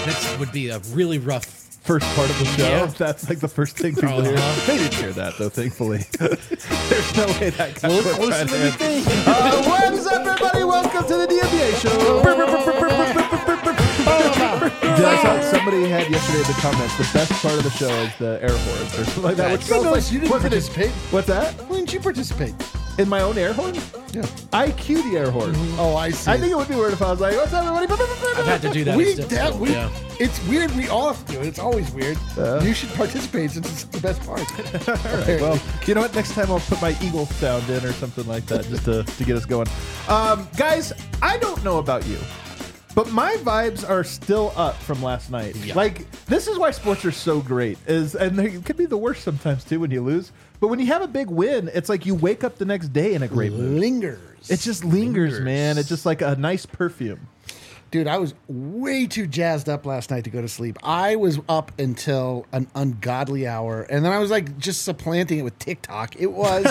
This would be a really rough first part of the show. Yeah. That's like the first thing people hear. They didn't hear that, though, thankfully. There's no way that guy would try to end. What is up, everybody? Welcome to the DMBA show. I saw somebody had yesterday in the comments, the best part of the show is the air horns or something like that. Which sounds like, you didn't participate. What's that? Why didn't you participate? In my own air horn? Yeah. I cue the air horn. Oh, I see. I think it would be weird if I was like, what's up, everybody? I've had to do that. It's weird. We all have to do it. It's always weird. You should participate since it's the best part. All right, well, you know what? Next time I'll put my eagle sound in or something like that just to get us going. Guys, I don't know about you, but my vibes are still up from last night. Yeah. Like, this is why sports are so great. And they can be the worst sometimes, too, when you lose. But when you have a big win, it's like you wake up the next day in a great mood. Lingers. It just lingers, man. It's just like a nice perfume. Dude, I was way too jazzed up last night to go to sleep. I was up until an ungodly hour, and then I was like just supplanting it with TikTok. It was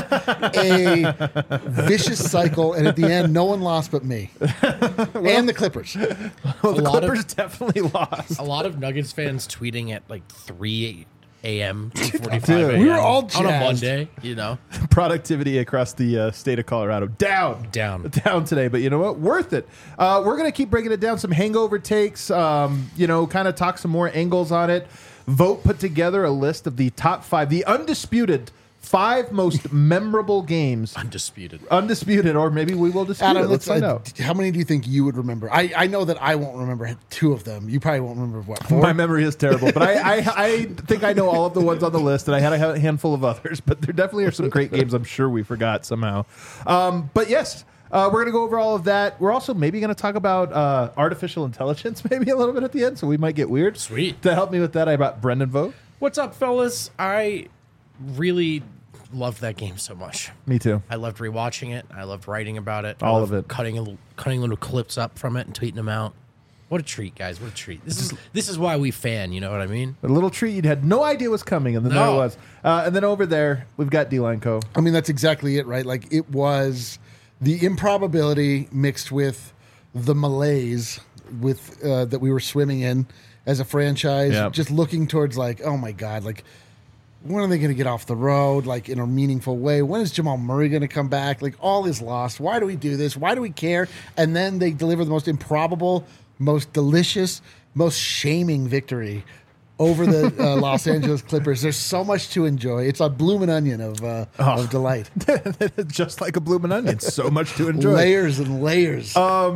a vicious cycle, and at the end, no one lost but me. And the Clippers. Well, the Clippers definitely lost. A lot of Nuggets fans tweeting at like 3 a.m. 2:45 Dude, a.m. we were all jazzed. on a Monday, you know. Productivity across the state of Colorado down today, but you know what, worth it. We're gonna keep breaking it down, some hangover takes, kind of talk some more angles on it. Vote put together a list of the top 5, the undisputed 5 most memorable games. Undisputed, or maybe we will dispute Adam, it. Let's find out. How many do you think you would remember? I know that I won't remember 2 of them. You probably won't remember what, 4? My memory is terrible, but I think I know all of the ones on the list, and I had a handful of others, but there definitely are some great games I'm sure we forgot somehow. But yes, we're going to go over all of that. We're also maybe going to talk about artificial intelligence maybe a little bit at the end, so we might get weird. Sweet. To help me with that, I brought Brendan Vogt. What's up, fellas? I really loved that game so much. Me too. I loved rewatching it. I loved writing about it. All of it. Cutting little clips up from it and tweeting them out. What a treat, guys! What a treat. This is why we fan. You know what I mean? A little treat you had no idea was coming, and then there it was. And then over there, we've got D-Line Co. I mean, that's exactly it, right? Like, it was the improbability mixed with the malaise with that we were swimming in as a franchise, just looking towards like, oh my God, like, when are they going to get off the road, like, in a meaningful way? When is Jamal Murray going to come back? Like, all is lost. Why do we do this? Why do we care? And then they deliver the most improbable, most delicious, most shaming victory over the Los Angeles Clippers. There's so much to enjoy. It's a bloomin' onion of delight. Just like a bloomin' onion. So much to enjoy. Layers and layers.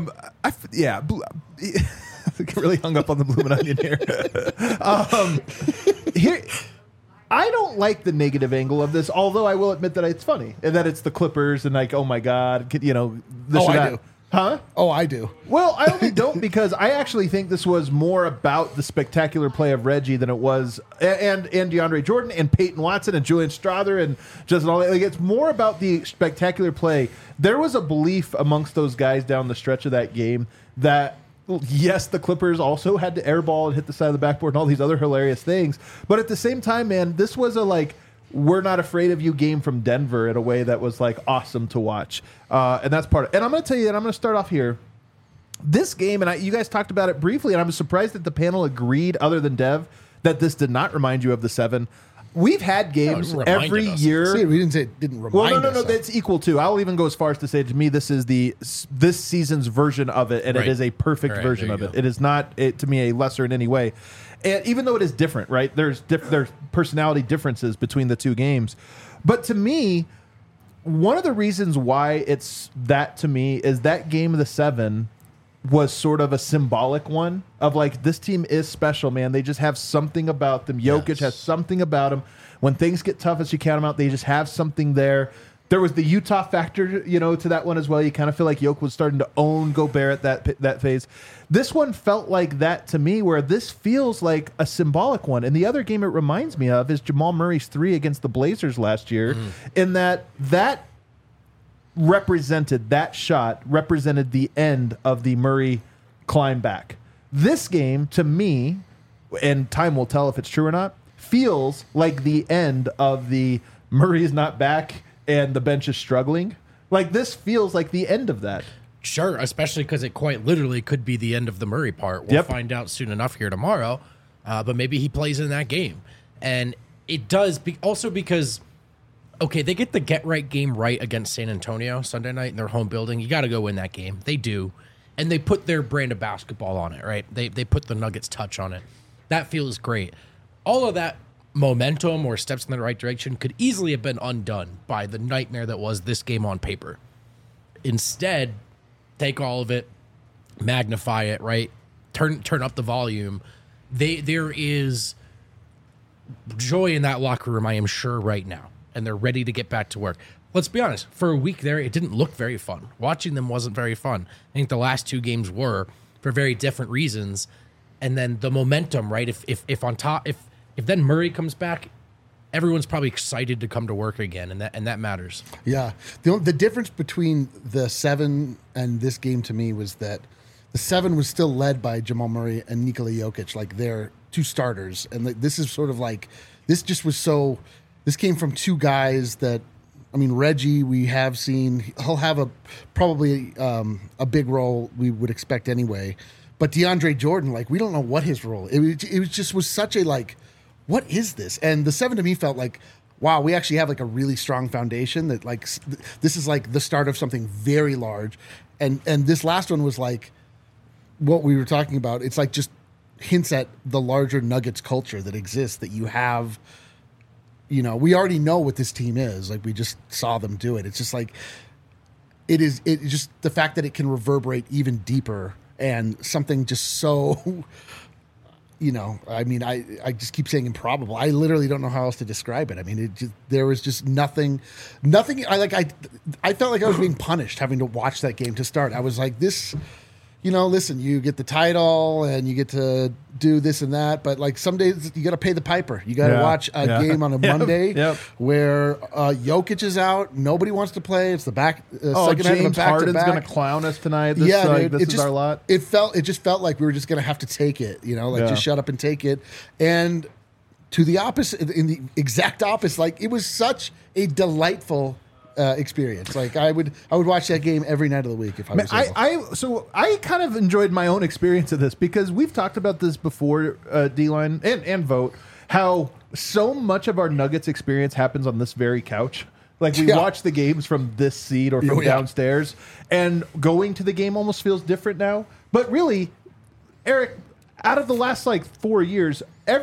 Really hung up on the bloomin' onion here. Here, I don't like the negative angle of this, although I will admit that it's funny and that it's the Clippers and like, oh my God, this or that. I do. Huh? Oh, I do. Well, I only don't because I actually think this was more about the spectacular play of Reggie than it was, and DeAndre Jordan and Peyton Watson and Julian Strawther and just all that. Like, it's more about the spectacular play. There was a belief amongst those guys down the stretch of that game that, yes, the Clippers also had to airball and hit the side of the backboard and all these other hilarious things. But at the same time, man, this was a we're not afraid of you game from Denver in a way that was like awesome to watch. And that's part of it. And I'm going to tell you, and I'm going to start off here. This game, and you guys talked about it briefly, and I'm surprised that the panel agreed, other than Dev, that this did not remind you of the 7. We've had games every year. See, we didn't say it didn't remind us. Well, no, that's equal too. I'll even go as far as to say, to me, this is this season's version of it, and it is a perfect version of it. It is not, to me, a lesser in any way. And even though it is different, right? There's personality differences between the two games. But to me, one of the reasons why it's that to me is that game of the 7 was sort of a symbolic one of like, this team is special, man. They just have something about them. Jokic has something about him. When things get tough, as you count them out, they just have something there. There was the Utah factor, to that one as well. You kind of feel like Jokic was starting to own Gobert at that phase. This one felt like that to me, where this feels like a symbolic one. And the other game it reminds me of is Jamal Murray's 3 against the Blazers last year, in that shot represented the end of the Murray climb back. This game, to me, and time will tell if it's true or not, feels like the end of the Murray is not back and the bench is struggling. Like, this feels like the end of that. Sure, especially because it quite literally could be the end of the Murray part. We'll find out soon enough here tomorrow, but maybe he plays in that game. And it does also because, okay, they get the get-right game right against San Antonio Sunday night in their home building. You got to go win that game. They do. And they put their brand of basketball on it, right? They put the Nuggets touch on it. That feels great. All of that momentum or steps in the right direction could easily have been undone by the nightmare that was this game on paper. Instead, take all of it, magnify it, right? Turn up the volume. There is joy in that locker room, I am sure, right now. And they're ready to get back to work. Let's be honest. For a week there, it didn't look very fun. Watching them wasn't very fun. I think the last 2 games were for very different reasons. And then the momentum, right? If on top, if then Murray comes back, everyone's probably excited to come to work again, and that matters. Yeah. The difference between the 7 and this game to me was that the 7 was still led by Jamal Murray and Nikola Jokic, like they're 2 starters. And this is sort of like, this came from 2 guys that, I mean, Reggie, we have seen, he'll have probably a big role we would expect anyway. But DeAndre Jordan, like, we don't know what his role. It was such a, like, what is this? And the 7 to me felt like, wow, we actually have like a really strong foundation that like, this is like the start of something very large. And this last one was like what we were talking about. It's like just hints at the larger Nuggets culture that exists, that you have, you know, we already know what this team is. Like, we just saw them do it. It's just like, it's just the fact that it can reverberate even deeper and something just so, you know, I mean, I just keep saying improbable. I literally don't know how else to describe it. I mean, there was just nothing. I felt like I was being punished having to watch that game to start. I was like, this, you know, listen, you get the title and you get to do this and that, but like some days you got to pay the piper. You got to watch a game on a Monday where Jokic is out. Nobody wants to play. It's the second half of a James Harden's going to clown us tonight. This is our lot. It just felt like we were just going to have to take it, you know, like just shut up and take it. And to the opposite, in the exact opposite, like it was such a delightful experience. Like I would watch that game every night of the week if I was able. So I kind of enjoyed my own experience of this because we've talked about this before, D-Line and Vote, how so much of our Nuggets experience happens on this very couch. Like we watch the games from this seat or from downstairs, and going to the game almost feels different now. But really, Eric, out of the last like 4 years,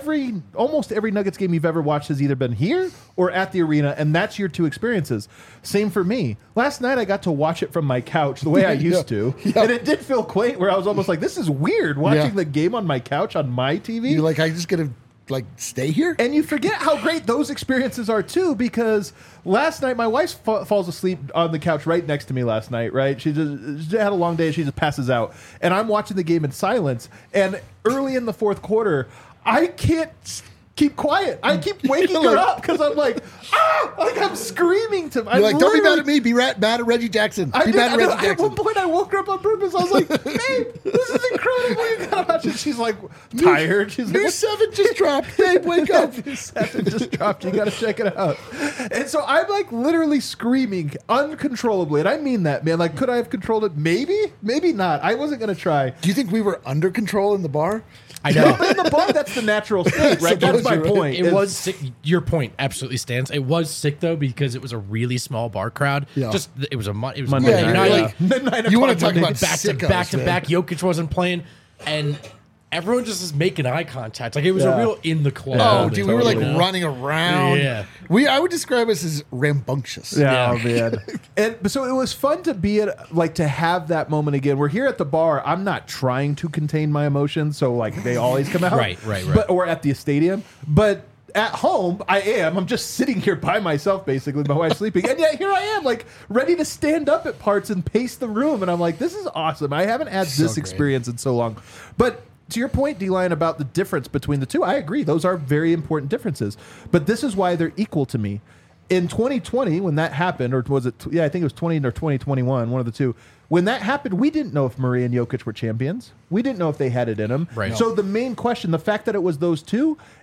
almost every Nuggets game you've ever watched has either been here or at the arena, and that's your 2 experiences. Same for me. Last night I got to watch it from my couch the way I used to, and it did feel quaint where I was almost like, this is weird watching the game on my couch on my TV. You're like, I just get to like stay here? And you forget how great those experiences are too, because last night my wife falls asleep on the couch right next to me last night, right? She had a long day. She just passes out. And I'm watching the game in silence. And early in the 4th quarter, I can't keep quiet. I keep waking her up because I'm like, like I'm screaming to. You're like, don't be mad at me. Be mad at Reggie Jackson. Be mad at Reggie Jackson. At one point, I woke her up on purpose. I was like, babe, this is incredible. You gotta watch it. She's like tired. She's like, New 7 just dropped. Babe, wake up. New 7 just dropped. You gotta check it out. And so I'm like literally screaming uncontrollably, and I mean that, man. Like, could I have controlled it? Maybe, maybe not. I wasn't gonna try. Do you think we were under control in the bar? I know. But in the bar, that's the natural state, right? That's my point. It was sick. Your point absolutely stands. It was sick though because it was a really small bar crowd. Yeah. It was Monday night. Like, you want to talk about back to back. Jokic wasn't playing, and everyone just is making eye contact. Like it was a real in the club. Oh, dude, we were like running around. Yeah. I would describe us as rambunctious. Yeah, oh, man. And so it was fun to be to have that moment again. We're here at the bar. I'm not trying to contain my emotions, so like they always come out. Right. Or at the stadium. But at home, I am. I'm just sitting here by myself, basically. My wife's sleeping. And yet here I am, like, ready to stand up at parts and pace the room. And I'm like, this is awesome. I haven't had this experience in so long. But to your point, D-Line, about the difference between the 2, I agree. Those are very important differences. But this is why they're equal to me. In 2020, when that happened, or was it, I think it was 20 or 2021, one of the 2. When that happened, we didn't know if Murray and Jokic were champions. We didn't know if they had it in them. Right. So the main question, the fact that it was those 2,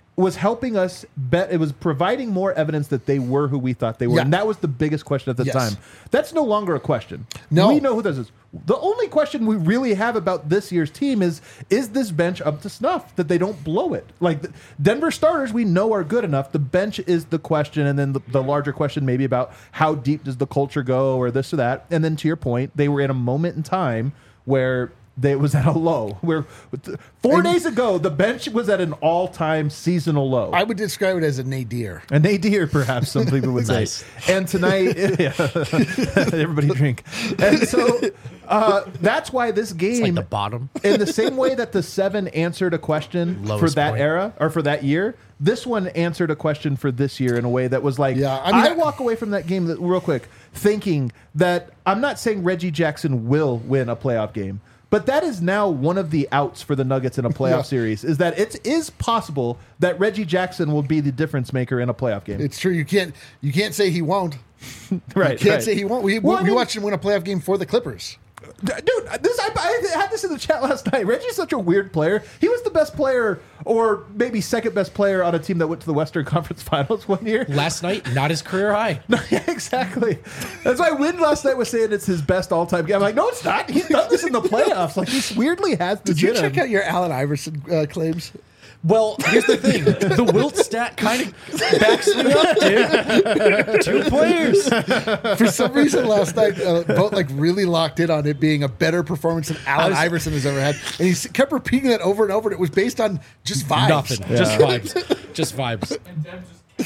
was helping us bet. It was providing more evidence that they were who we thought they were. Yeah. And that was the biggest question at the time. That's no longer a question. No. We know who this is. The only question we really have about this year's team is this bench up to snuff, that they don't blow it? Like, Denver starters we know are good enough. The bench is the question, and then the larger question maybe about how deep does the culture go or this or that. And then to your point, they were in a moment in time where it was at a low. Where 4 days ago, the bench was at an all-time seasonal low. I would describe it as a nadir. A nadir, perhaps, some people would say. And tonight, everybody drink. And so that's why this game... It's like the bottom. In the same way that the 7 answered a question for that era, or for that year, this one answered a question for this year in a way that was like... Yeah, I mean, I walk away from that game, real quick, thinking that... I'm not saying Reggie Jackson will win a playoff game, but that is now one of the outs for the Nuggets in a playoff series, is that it is possible that Reggie Jackson will be the difference maker in a playoff game. It's true. You can't say he won't. Right. You can't say he won't. We watched him win a playoff game for the Clippers. Dude, I had this in the chat last night. Reggie's such a weird player. He was the best player, or maybe second best player on a team that went to the Western Conference Finals one year. Last night, not his career high. No, yeah, exactly. That's why Win last night was saying it's his best all-time game. I'm like, no, it's not. He's done this in the playoffs. Like, he weirdly has this. Did you check out your Allen Iverson claims? Well, here's the thing. The Wilt stat kind of backs me up, dude. 2 players. For some reason last night, both like really locked in on it being a better performance than Allen Iverson has ever had. And he kept repeating that over and over. And it was based on just vibes. Nothing. Yeah. Just vibes. Just vibes. And Dem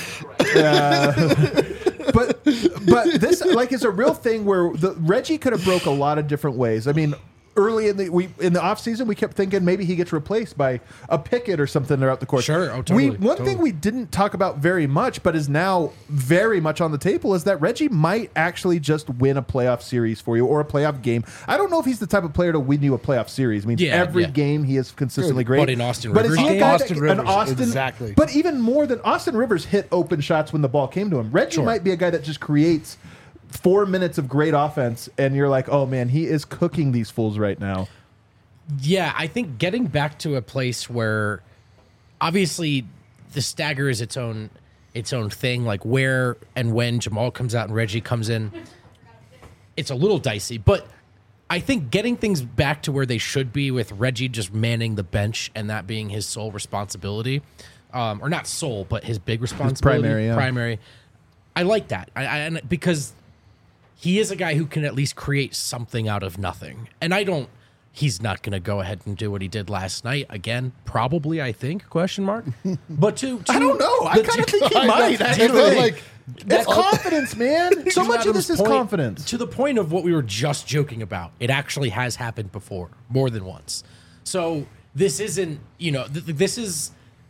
just But this is a real thing where Reggie could have broke a lot of different ways. I mean, early in the offseason, we kept thinking maybe he gets replaced by a Pickett or something throughout the court. Sure, totally. One thing we didn't talk about very much, but is now very much on the table, is that Reggie might actually just win a playoff series for you, or a playoff game. I don't know if he's the type of player to win you a playoff series. I mean, every game he is consistently great. But in Austin Rivers' game? Exactly. But even more than Austin Rivers hit open shots when the ball came to him. Reggie might be a guy that just creates 4 minutes of great offense, and you're like, oh man, he is cooking these fools right now. Yeah, I think getting back to a place where obviously the stagger is its own thing, like where and when Jamal comes out and Reggie comes in, it's a little dicey. But I think getting things back to where they should be, with Reggie just manning the bench and that being his sole responsibility, or not sole, but his big responsibility, primary. I like that, I because he is a guy who can at least create something out of nothing. And he's not going to go ahead and do what he did last night again. Probably, I think, question mark. But I don't know. I kind of think he might. It's confidence, man. So much of this is confidence. To the point of what we were just joking about. It actually has happened before, more than once. So this isn't, this is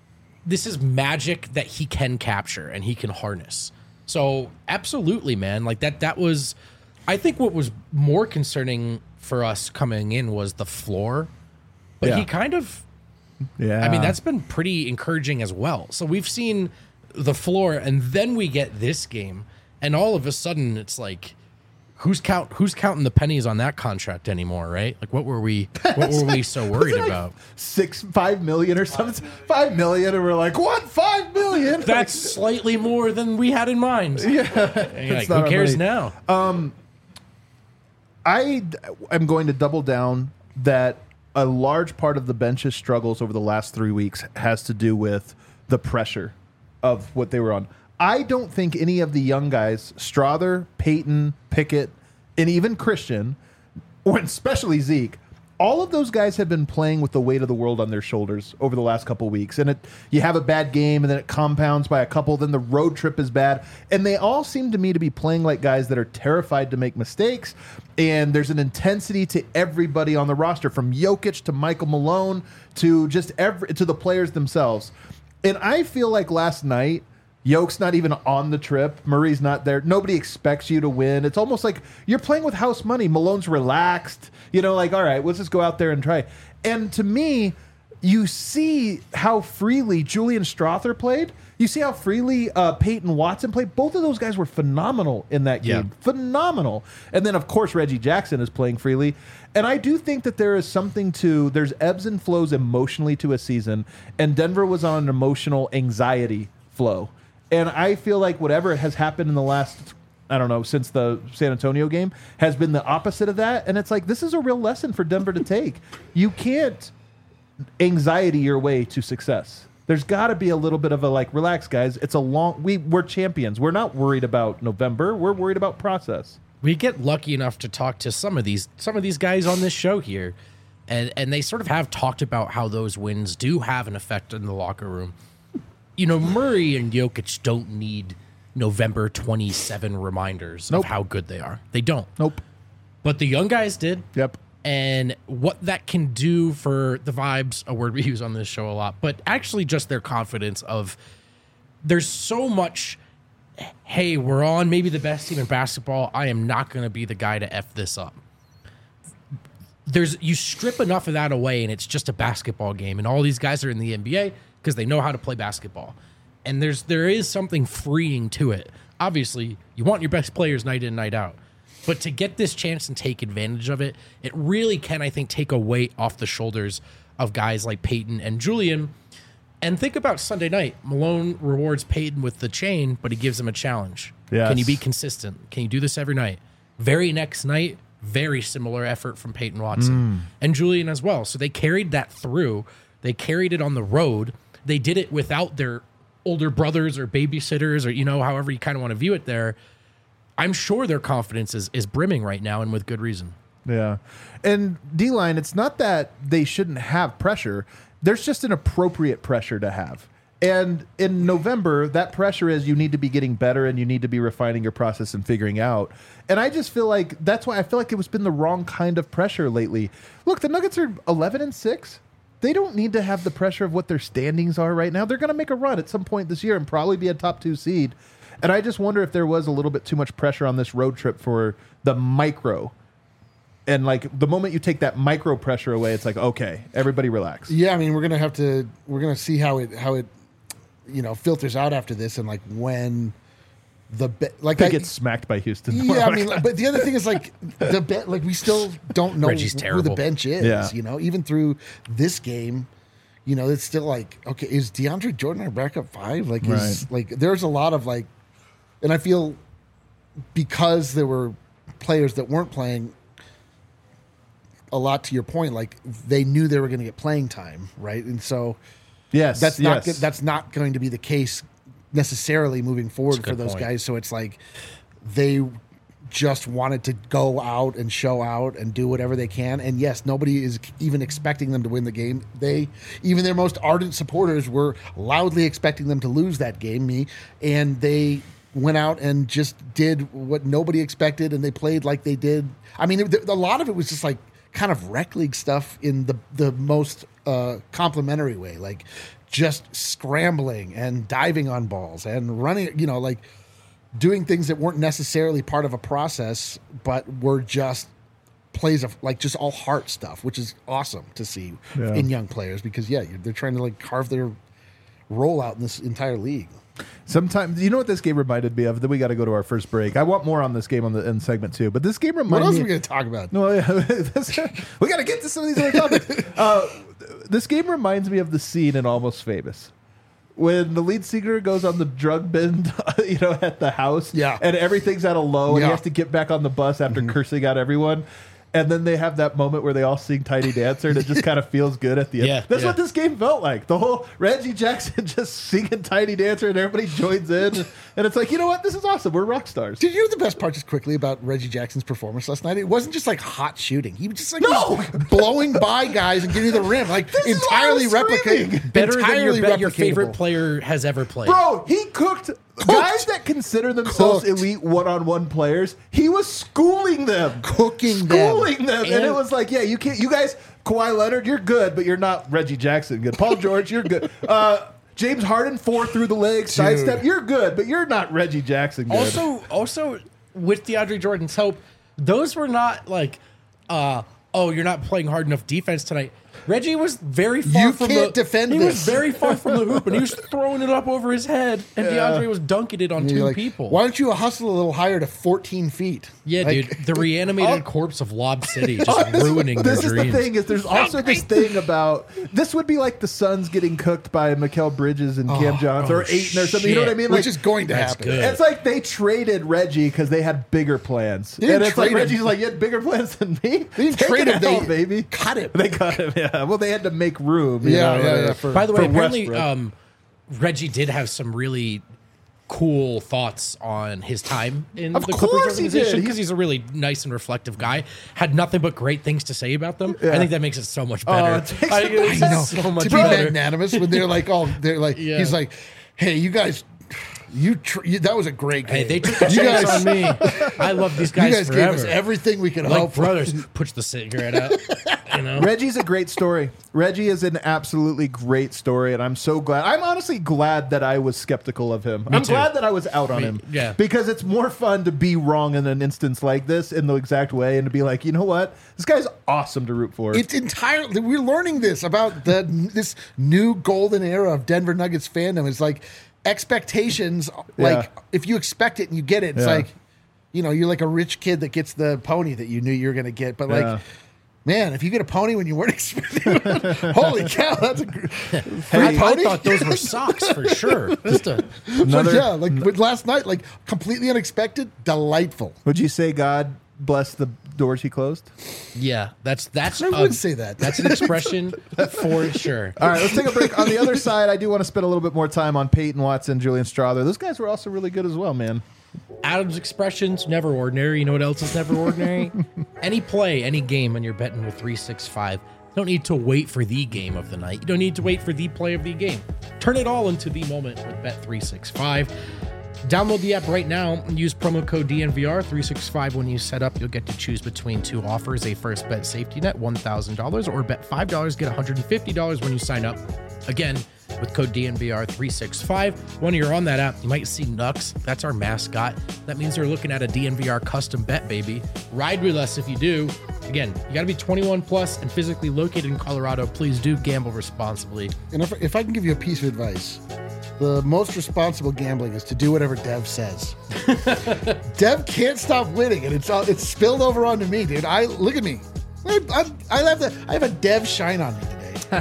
magic that he can capture and he can harness. So absolutely, man. Like that was, I think what was more concerning for us coming in was the floor, but he kind of, I mean, that's been pretty encouraging as well. So we've seen the floor, and then we get this game, and all of a sudden it's like, who's counting the pennies on that contract anymore, right? Like, what were we so worried about? 5 million or something? 5 million, and we're like, what? 5 million? That's slightly more than we had in mind. Yeah, like, who cares now? I am going to double down that a large part of the bench's struggles over the last 3 weeks has to do with the pressure of what they were on. I don't think any of the young guys, Strawther, Peyton, Pickett, and even Christian, or especially Zeke, all of those guys have been playing with the weight of the world on their shoulders over the last couple of weeks. And you have a bad game, and then it compounds by a couple, then the road trip is bad. And they all seem to me to be playing like guys that are terrified to make mistakes. And there's an intensity to everybody on the roster, from Jokic to Michael Malone to just to the players themselves. And I feel like last night, Yoke's not even on the trip. Murray's not there. Nobody expects you to win. It's almost like you're playing with house money. Malone's relaxed. Like, all right, let's just go out there and try. And to me, you see how freely Julian Strawther played. You see how freely Peyton Watson played? Both of those guys were phenomenal in that game. Yeah. Phenomenal. And then, of course, Reggie Jackson is playing freely. And I do think that there is something there's ebbs and flows emotionally to a season, and Denver was on an emotional anxiety flow. And I feel like whatever has happened in the last, I don't know, since the San Antonio game has been the opposite of that. And it's like, this is a real lesson for Denver to take. You can't anxiety your way to success. There's got to be a little bit of a relax, guys. It's we're champions. We're not worried about November. We're worried about process. We get lucky enough to talk to some of these guys on this show here, and they sort of have talked about how those wins do have an effect in the locker room. Murray and Jokic don't need November 27 reminders of how good they are. They don't. Nope. But the young guys did. Yep. And what that can do for the vibes, a word we use on this show a lot, but actually just their confidence of there's so much, hey, we're on maybe the best team in basketball. I am not going to be the guy to F this up. You strip enough of that away and it's just a basketball game. And all these guys are in the NBA because they know how to play basketball. And there is something freeing to it. Obviously, you want your best players night in, night out. But to get this chance and take advantage of it, it really can, I think, take a weight off the shoulders of guys like Peyton and Julian. And think about Sunday night. Malone rewards Peyton with the chain, but he gives him a challenge. Yes. Can you be consistent? Can you do this every night? Very next night, very similar effort from Peyton Watson and Julian as well. So they carried that through. They carried it on the road. They did it without their older brothers or babysitters or, however you kind of want to view it there. I'm sure their confidence is brimming right now, and with good reason. Yeah. And D-line, it's not that they shouldn't have pressure. There's just an appropriate pressure to have. And in November, that pressure is you need to be getting better and you need to be refining your process and figuring out. And I just feel like that's why I feel like it was been the wrong kind of pressure lately. Look, the Nuggets are 11-6. They don't need to have the pressure of what their standings are right now. They're going to make a run at some point this year and probably be a top 2 seed. And I just wonder if there was a little bit too much pressure on this road trip for the micro. And the moment you take that micro pressure away, it's like, okay, everybody relax. Yeah, I mean, we're gonna see how it filters out after this, and when they get smacked by Houston. Yeah, I mean, but the other thing is we still don't know who the bench is. Yeah. Even through this game. It's still okay, is DeAndre Jordan our backup 5? There's a lot of and I feel because there were players that weren't playing a lot, to your point, they knew they were going to get playing time, right? And so yes, that's not going to be the case necessarily moving forward for those guys. So it's they just wanted to go out and show out and do whatever they can. And yes, nobody is even expecting them to win the game. Even their most ardent supporters were loudly expecting them to lose that game, and they went out and just did what nobody expected, and they played like they did. I mean, a lot of it was just kind of rec league stuff in the most complimentary way, just scrambling and diving on balls and running, doing things that weren't necessarily part of a process, but were just plays of just all heart stuff, which is awesome to see in young players because they're trying to carve their role out in this entire league. Sometimes, you know what this game reminded me of? Then we got to go to our first break. I want more on this game in segment 2, but this game reminded me. What else are we going to talk about? No, we got to get to some of these other topics. This game reminds me of the scene in Almost Famous. When the lead singer goes on the drug bend, at the house, and everything's at a low, and he has to get back on the bus after cursing out everyone. And then they have that moment where they all sing Tiny Dancer, and it just kind of feels good at the end. That's what this game felt like. The whole Reggie Jackson just singing Tiny Dancer, and everybody joins in. And it's like, you know what? This is awesome. We're rock stars. Did you know the best part, just quickly, about Reggie Jackson's performance last night? It wasn't just hot shooting. He was just blowing by guys and getting to the rim, entirely replicating. Better than your favorite player has ever played. Bro, he cooked. Guys that consider themselves elite one-on-one players, he was schooling them. Schooling them. And it was you can't, you guys, Kawhi Leonard, you're good, but you're not Reggie Jackson good. Paul George, you're good. James Harden, 4 through the legs, sidestep, you're good, but you're not Reggie Jackson good. Also, with DeAndre Jordan's help, those were not you're not playing hard enough defense tonight. Reggie was very far You from can't defend He this. was very far from the hoop, and he was throwing it up over his head, and DeAndre was dunking it on And you're two like, people. Why don't you hustle a little higher to 14 feet? Yeah, Like, dude, the reanimated corpse of Lob City just ruining their This is dreams. the thing is there's also this thing about this would be like the Suns getting cooked by Mikal Bridges and Cam Johnson or Ayton or something. You know what I mean? Which Like, is going to That's happen. good. it's like they traded Reggie because they had bigger plans. They didn't And it's like trade him. Reggie's like, you had bigger plans than me? They didn't Take trade it him. out, baby. Cut him. They cut him, yeah. Well, they had to make room. you Yeah, know, yeah, yeah, By the way, for apparently, Westbrook. Reggie did have some really cool thoughts on his time in Of the Clippers course he organization did. because he's a really nice and reflective guy. Had nothing but great things to say about them. Yeah. I think that makes it so much better. it takes- It's I know. so much To be better. magnanimous when they're like, Yeah. he's like, hey, you guys, that was a great game. Hey, they took a You chance guys- on me. I love these You guys, guys forever. gave us everything we could like hope for. brothers. Push the cigarette out. You know. Reggie's a great story. Reggie is an absolutely great story, and I'm so glad. I'm honestly glad that I was skeptical of him. I'm too. glad that I was out on him. yeah. Because it's more fun to be wrong in an instance like this in the exact way and to be like, you know what? This guy's awesome to root for. It's entirely. We're learning this about this new golden era of Denver Nuggets fandom. It's like expectations. Like if you expect it and you get it, it's Yeah. like, you're like a rich kid that gets the pony that you knew you were going to get. But Yeah. like, man, if you get a pony when you weren't expecting it, holy cow, that's a free I pony. thought those were socks for sure. Just a But yeah, like with last night, like completely unexpected, delightful. Would you say God bless the doors he closed? yeah. That's I would say that. That's an expression for sure. All right, let's take a break. On the other side, I do want to spend a little bit more time on Peyton Watson, Julian Strawther. Those guys were also really good as well, man. Adam's expressions, never ordinary. You know what else is never ordinary? Any play, any game when you're betting with 365. You don't need to wait for the game of the night. You don't need to wait for the play of the game. Turn it all into the moment with Bet365. Download the app right now and use promo code DNVR365 when you set up. You'll get to choose between two offers, a first bet safety net, $1,000, or bet $5, get $150 when you sign up. Again, with code DNVR365. When you're on that app, you might see Nux. That's our mascot. That means they're looking at a DNVR custom bet, baby. Ride with us if you do. Again, you got to be 21 plus and physically located in Colorado. Please do gamble responsibly. And if I can give you a piece of advice, the most responsible gambling is to do whatever Dev says. Dev can't stop winning, and it's spilled over onto me, dude. Look at me. I have a Dev shine on me today.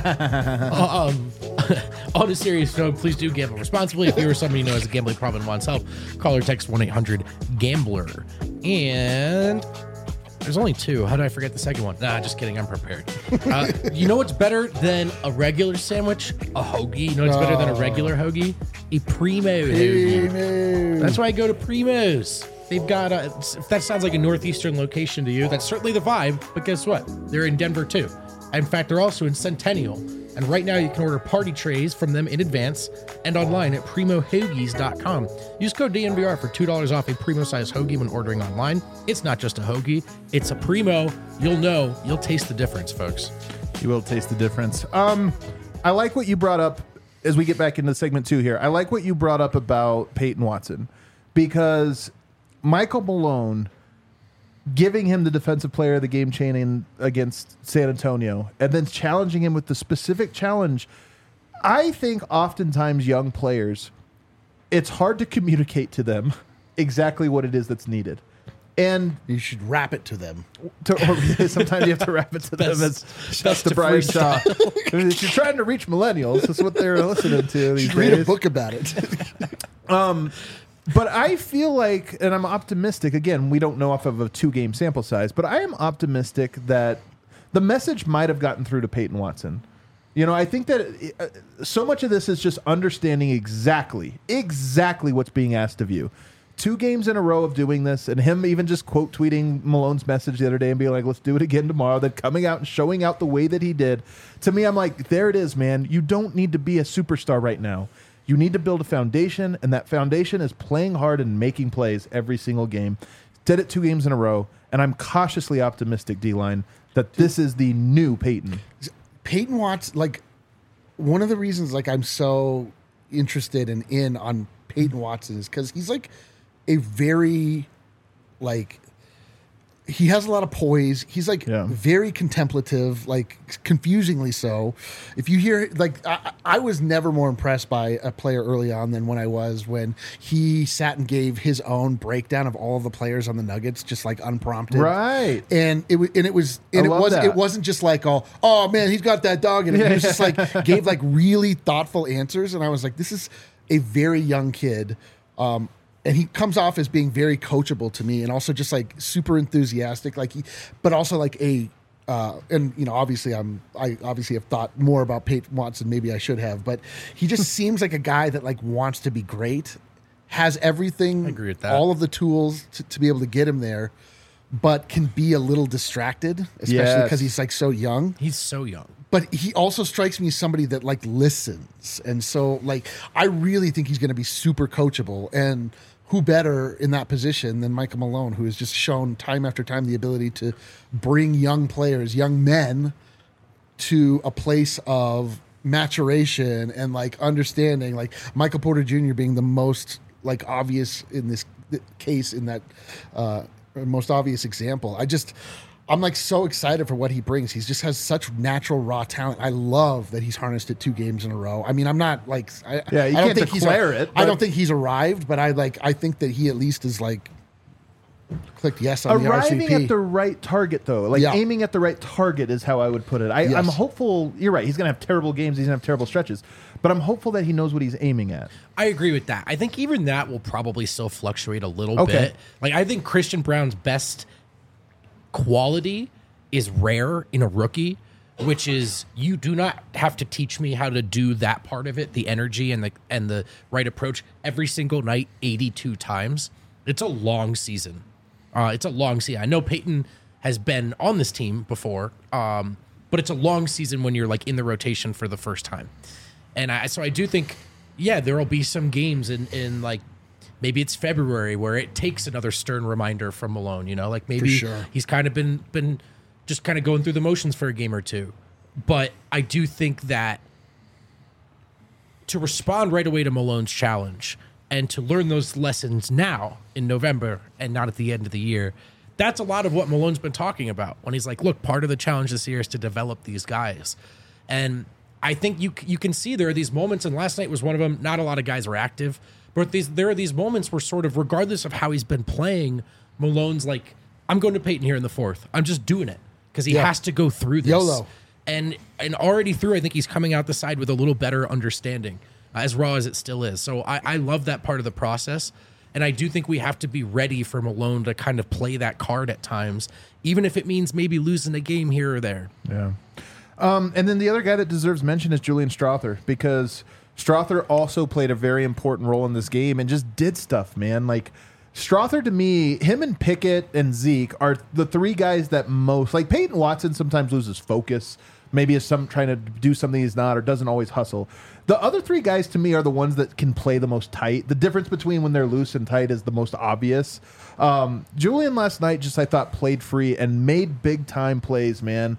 On a serious note, please do gamble responsibly. If you or somebody you know has a gambling problem and wants help, call or text 1-800-GAMBLER. And there's only two. How did I forget the second one? Nah, just kidding. I'm prepared. You know what's better than a regular sandwich? A hoagie. You know what's better than a regular hoagie? A Primo hoagie. That's why I go to Primo's. They've got if that sounds like a northeastern location to you, that's certainly the vibe. But guess what? They're in Denver too. In fact, they're also in Centennial. And right now you can order party trays from them in advance and online at primohoagies.com. Use code DNVR for $2 off a Primo-sized hoagie when ordering online. It's not just a hoagie, it's a Primo. You'll taste the difference, folks. You will taste the difference. I like what you brought up as we get back into segment 2 here. I like what you brought up about Peyton Watson because Michael Malone giving him the defensive player of the game chaining against San Antonio and then challenging him with the specific challenge. I think oftentimes young players, it's hard to communicate to them exactly what it is that's needed. And You should rap it to them. sometimes you have to rap it to them. That's best the to Brian freestyle. Shaw. If you're trying to reach millennials, that's what they're listening to these Read a days. book about it. But I feel like, and I'm optimistic, again, we don't know off of a 2-game sample size, but I am optimistic that the message might have gotten through to Peyton Watson. You know, I think that so much of this is just understanding exactly what's being asked of you. 2 games in a row of doing this, and him even just quote tweeting Malone's message the other day and being like, let's do it again tomorrow, then coming out and showing out the way that he did. To me, I'm like, there it is, man. You don't need to be a superstar right now. You need to build a foundation, and that foundation is playing hard and making plays every single game. Did it 2 games in a row, and I'm cautiously optimistic, D-Line, that this is the new Peyton. Peyton Watson, like, one of the reasons, like, I'm so interested and in on Peyton Watson is because he's, like, a very, like, he has a lot of poise. He's like very contemplative, like confusingly so. If you hear like I was never more impressed by a player early on than when I was when he sat and gave his own breakdown of all of the players on the Nuggets, just like unprompted. Right. And it wasn't just like oh man, he's got that dog in it. He was just like gave like really thoughtful answers, and I was like, this is a very young kid. And he comes off as being very coachable to me, and also just like super enthusiastic, but also like and obviously I obviously have thought more about Peyton Watson, maybe I should have, but he just seems like a guy that like wants to be great, has everything, I agree with that. all of the tools to be able to get him there, but can be a little distracted, especially because he's like so young. He's so young. But he also strikes me as somebody that like listens, and so like I really think he's going to be super coachable. And who better in that position than Michael Malone, who has just shown time after time the ability to bring young players, young men, to a place of maturation and like understanding. Like Michael Porter Jr. being the most like obvious in this case, in that most obvious example. I'm like so excited for what he brings. He just has such natural raw talent. I love that he's harnessed it 2 games in a row. I mean, I'm not like I don't think I don't think he's arrived, but I think that he at least is like clicked yes on arriving the RCP. at the right target though. Like aiming at the right target is how I would put it. I'm hopeful. You're right. He's going to have terrible games. He's going to have terrible stretches, but I'm hopeful that he knows what he's aiming at. I agree with that. I think even that will probably still fluctuate a little bit. Like I think Christian Braun's best quality is rare in a rookie, which is you do not have to teach me how to do that part of it, the energy and the right approach every single night 82 times. It's a long season. I know Peyton has been on this team before, but it's a long season when you're like in the rotation for the first time. And so I do think, there will be some games in like, maybe it's February where it takes another stern reminder from Malone, like maybe he's kind of been just kind of going through the motions for a game or two. But I do think that to respond right away to Malone's challenge and to learn those lessons now in November and not at the end of the year, that's a lot of what Malone's been talking about when he's like, look, part of the challenge this year is to develop these guys. And I think you can see there are these moments, and last night was one of them. Not a lot of guys are active. But there are these moments where sort of regardless of how he's been playing, Malone's like, I'm going to Peyton here in the 4th. I'm just doing it because he has to go through this. YOLO. And already through, I think he's coming out the side with a little better understanding, as raw as it still is. So I love that part of the process. And I do think we have to be ready for Malone to kind of play that card at times, even if it means maybe losing a game here or there. Yeah. And then the other guy that deserves mention is Julian Strawther, because Strawther also played a very important role in this game and just did stuff, man. Like Strawther, to me, him and Pickett and Zeke are the 3 guys that most, like Peyton Watson sometimes loses focus, maybe is trying to do something he's not or doesn't always hustle. The other 3 guys to me are the ones that can play the most tight. The difference between when they're loose and tight is the most obvious. Julian last night just, I thought, played free and made big time plays, man.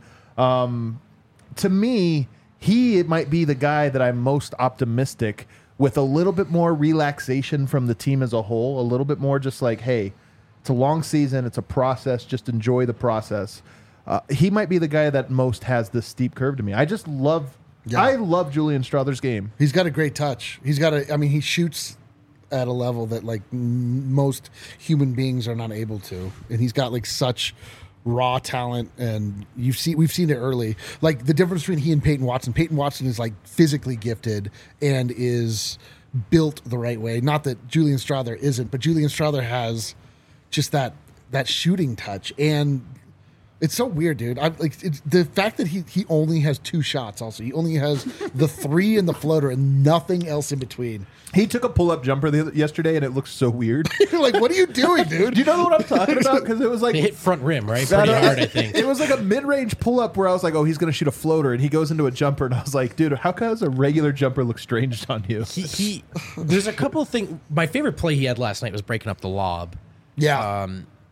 To me, he might be the guy that I'm most optimistic with, a little bit more relaxation from the team as a whole, a little bit more just like, hey, it's a long season, it's a process, just enjoy the process. He might be the guy that most has this steep curve to me. I love Julian Strawther's game. He's got a great touch. He shoots at a level that like most human beings are not able to. And he's got like such raw talent, and we've seen it early. Like the difference between he and Peyton Watson. Peyton Watson is like physically gifted and is built the right way. Not that Julian Strawther isn't, but Julian Strawther has just that shooting touch, and it's so weird, dude. The fact that he only has 2 shots. Also, he only has the 3 and the floater and nothing else in between. He took a pull-up jumper yesterday, and it looks so weird. Like, what are you doing, dude? Do you know what I'm talking about? Because it was like... They hit front rim, right? Pretty hard, I think. It was like a mid-range pull-up where I was like, oh, he's going to shoot a floater, and he goes into a jumper, and I was like, dude, how does a regular jumper look strange on you? There's a couple of things... My favorite play he had last night was breaking up the lob. Yeah.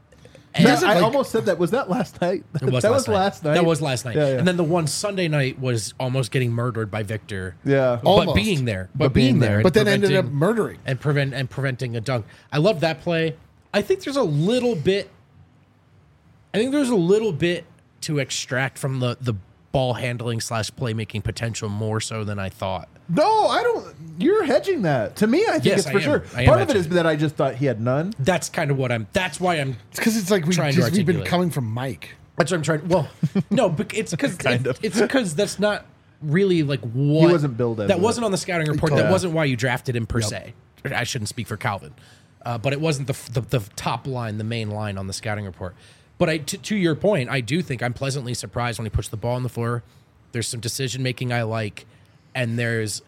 I almost said that. Was that last night? That was last night. That was last night. Yeah. And then the one Sunday night was almost getting murdered by Victor. Yeah. But being there. But then ended up murdering. And preventing a dunk. I love that play. I think there's a little bit I think there's a little bit to extract from the ball handling / playmaking potential more so than I thought. No, I don't. You're hedging that. To me, I think it's for sure. Part of it is that I just thought he had none. That's kind of what I'm. That's why I'm. It's because it's like we've been coming from Mike. That's what I'm trying. Well, no, but it's because it's because that's not really like what he wasn't billed as that wasn't on the scouting report. That wasn't why you drafted him per se. I shouldn't speak for Calvin, but it wasn't the top line, the main line on the scouting report. But to your point, I do think I'm pleasantly surprised when he puts the ball on the floor. There's some decision making I like, and there's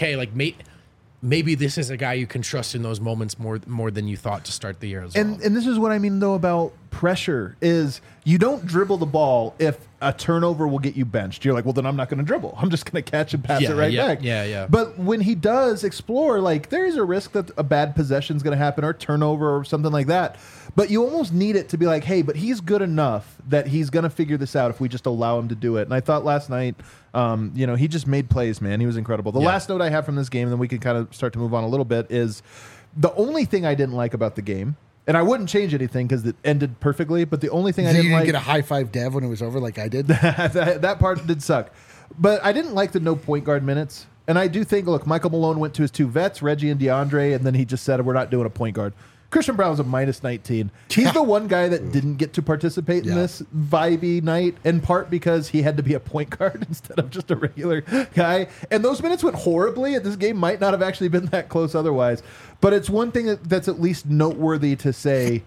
maybe this is a guy you can trust in those moments more than you thought to start the year as well. And this is what I mean though about pressure is you don't dribble the ball if a turnover will get you benched. You're like, well, then I'm not going to dribble. I'm just going to catch and pass it right back. Yeah. But when he does explore, like there is a risk that a bad possession is going to happen or turnover or something like that. But you almost need it to be like, hey, but he's good enough that he's going to figure this out if we just allow him to do it. And I thought last night, he just made plays, man. He was incredible. The last note I have from this game, and then we can kind of start to move on a little bit, is the only thing I didn't like about the game, and I wouldn't change anything because it ended perfectly, but the only thing I didn't like... You didn't get a high-five Dev when it was over like I did? that part did suck. But I didn't like the no point guard minutes. And I do think, look, Michael Malone went to his two vets, Reggie and DeAndre, and then he just said, we're not doing a point guard. Christian Brown was a minus 19. He's the one guy that didn't get to participate in this vibey night, in part because he had to be a point guard instead of just a regular guy. And those minutes went horribly, and this game might not have actually been that close otherwise. But it's one thing that's at least noteworthy to say.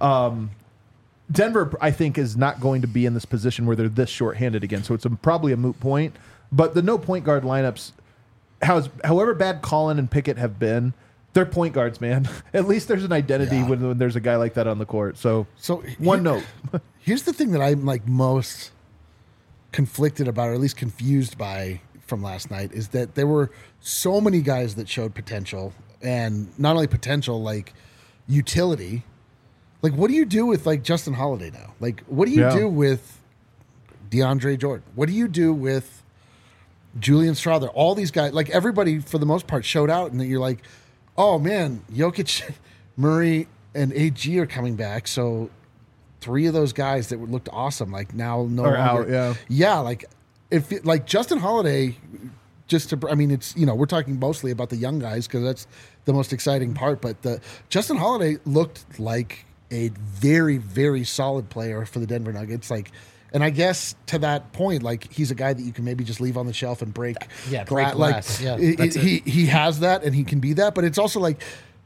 Denver, I think, is not going to be in this position where they're this shorthanded again. So it's probably a moot point. But the no point guard lineups, however bad Collin and Pickett have been, they're point guards, man. At least there's an identity when there's a guy like that on the court. So one note. Here's the thing that I'm like most conflicted about, or at least confused by from last night, is that there were so many guys that showed potential, and not only potential, like utility. Like, what do you do with like Justin Holiday now? Like, what do you do with DeAndre Jordan? What do you do with Julian Strawther? All these guys, like everybody for the most part showed out, and that you're like, oh man, Jokic, Murray, and AG are coming back. So 3 of those guys that looked awesome, like now no longer. Out, like if like Justin Holiday, it's we're talking mostly about the young guys because that's the most exciting part. But Justin Holiday looked like a very, very solid player for the Denver Nuggets. Like, and I guess to that point, like he's a guy that you can maybe just leave on the shelf and break. Yeah, break glass. Like he has that and he can be that. But it's also like,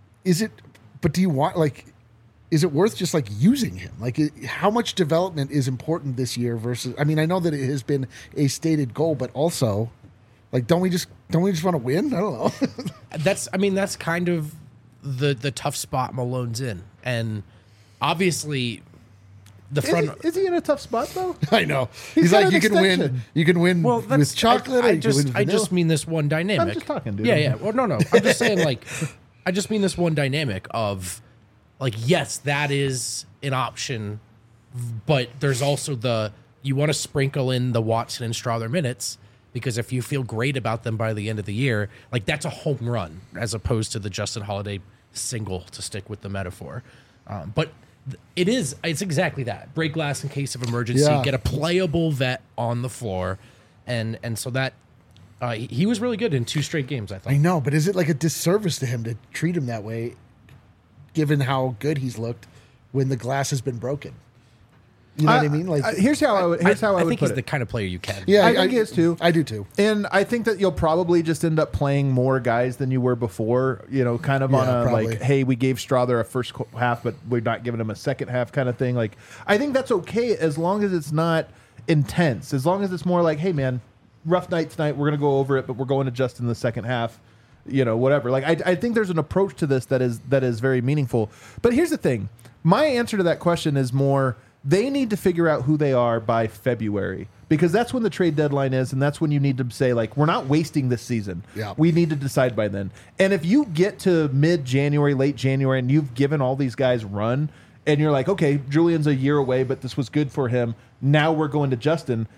do you want like? Is it worth just like using him? Like, how much development is important this year versus? I mean, I know that it has been a stated goal, but also, like, don't we just want to win? I don't know. That's kind of the tough spot Malone's in, and obviously, the front. Is he in a tough spot though? I know. He's like, you can win. You can win with chocolate. I just mean this one dynamic. I'm just talking, dude. Yeah. Well, no. I'm just saying, like, I just mean this one dynamic of. Like, yes, that is an option, but there's also you want to sprinkle in the Watson and Strawther minutes because if you feel great about them by the end of the year, like that's a home run as opposed to the Justin Holiday single, to stick with the metaphor. But it's exactly that. Break glass in case of emergency, get a playable vet on the floor. And so that he was really good in 2 straight games, I thought. I know, but is it like a disservice to him to treat him that way? Given how good he's looked when the glass has been broken. You know what I mean? Like, here's how I would I think put he's it. The kind of player you can. Yeah, I think he is too. I do too. And I think that you'll probably just end up playing more guys than you were before, kind of on a probably. Like, hey, we gave Strawther a first half, but we're not giving him a second half kind of thing. Like, I think that's okay as long as it's not intense. As long as it's more like, hey, man, rough night tonight, we're going to go over it, but we're going to just in the second half. Whatever. Like, I think there's an approach to this that is very meaningful. But here's the thing. My answer to that question is more, they need to figure out who they are by February, because that's when the trade deadline is, and that's when you need to say, like, we're not wasting this season. Yeah. We need to decide by then. And if you get to mid-January, late January, and you've given all these guys run, and you're like, okay, Julian's a year away, but this was good for him. Now we're going to Justin.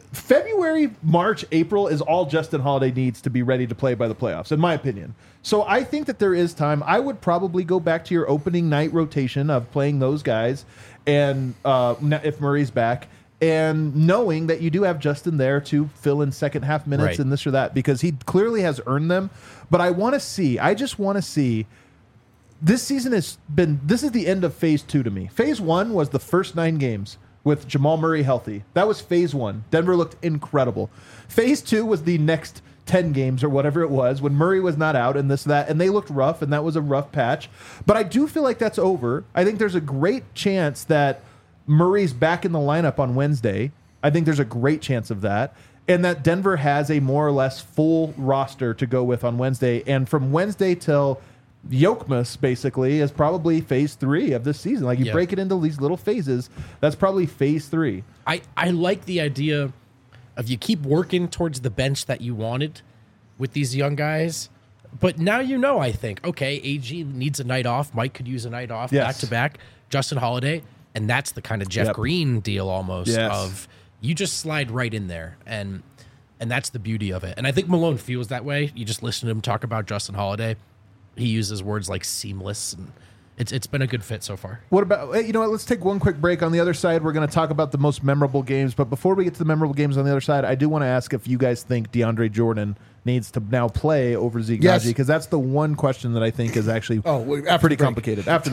February, March, April is all Justin Holiday needs to be ready to play by the playoffs, in my opinion. So I think that there is time. I would probably go back to your opening night rotation of playing those guys, and if Murray's back, and knowing that you do have Justin there to fill in second half minutes and this or that, because he clearly has earned them. But I just want to see. This season this is the end of phase 2 to me. Phase 1 was the first 9 games with Jamal Murray healthy. That was phase 1. Denver looked incredible. Phase 2 was the next 10 games or whatever it was when Murray was not out and and they looked rough, and that was a rough patch. But I do feel like that's over. I think there's a great chance that Murray's back in the lineup on Wednesday. I think there's a great chance of that. And that Denver has a more or less full roster to go with on Wednesday. And from Wednesday till Yokmas basically is probably phase 3 of this season. Like you break it into these little phases. That's probably phase 3. I like the idea of you keep working towards the bench that you wanted with these young guys. But now I think, okay, AG needs a night off. Mike could use a night off back to back. Justin Holiday. And that's the kind of Jeff Green deal almost of you just slide right in there. And that's the beauty of it. And I think Malone feels that way. You just listen to him talk about Justin Holiday. He uses words like seamless, and it's been a good fit so far. What about, let's take one quick break. On the other side, we're going to talk about the most memorable games. But before we get to the memorable games on the other side, I do want to ask if you guys think DeAndre Jordan needs to now play over Zeke Nnaji, because that's the one question that I think is actually pretty complicated. After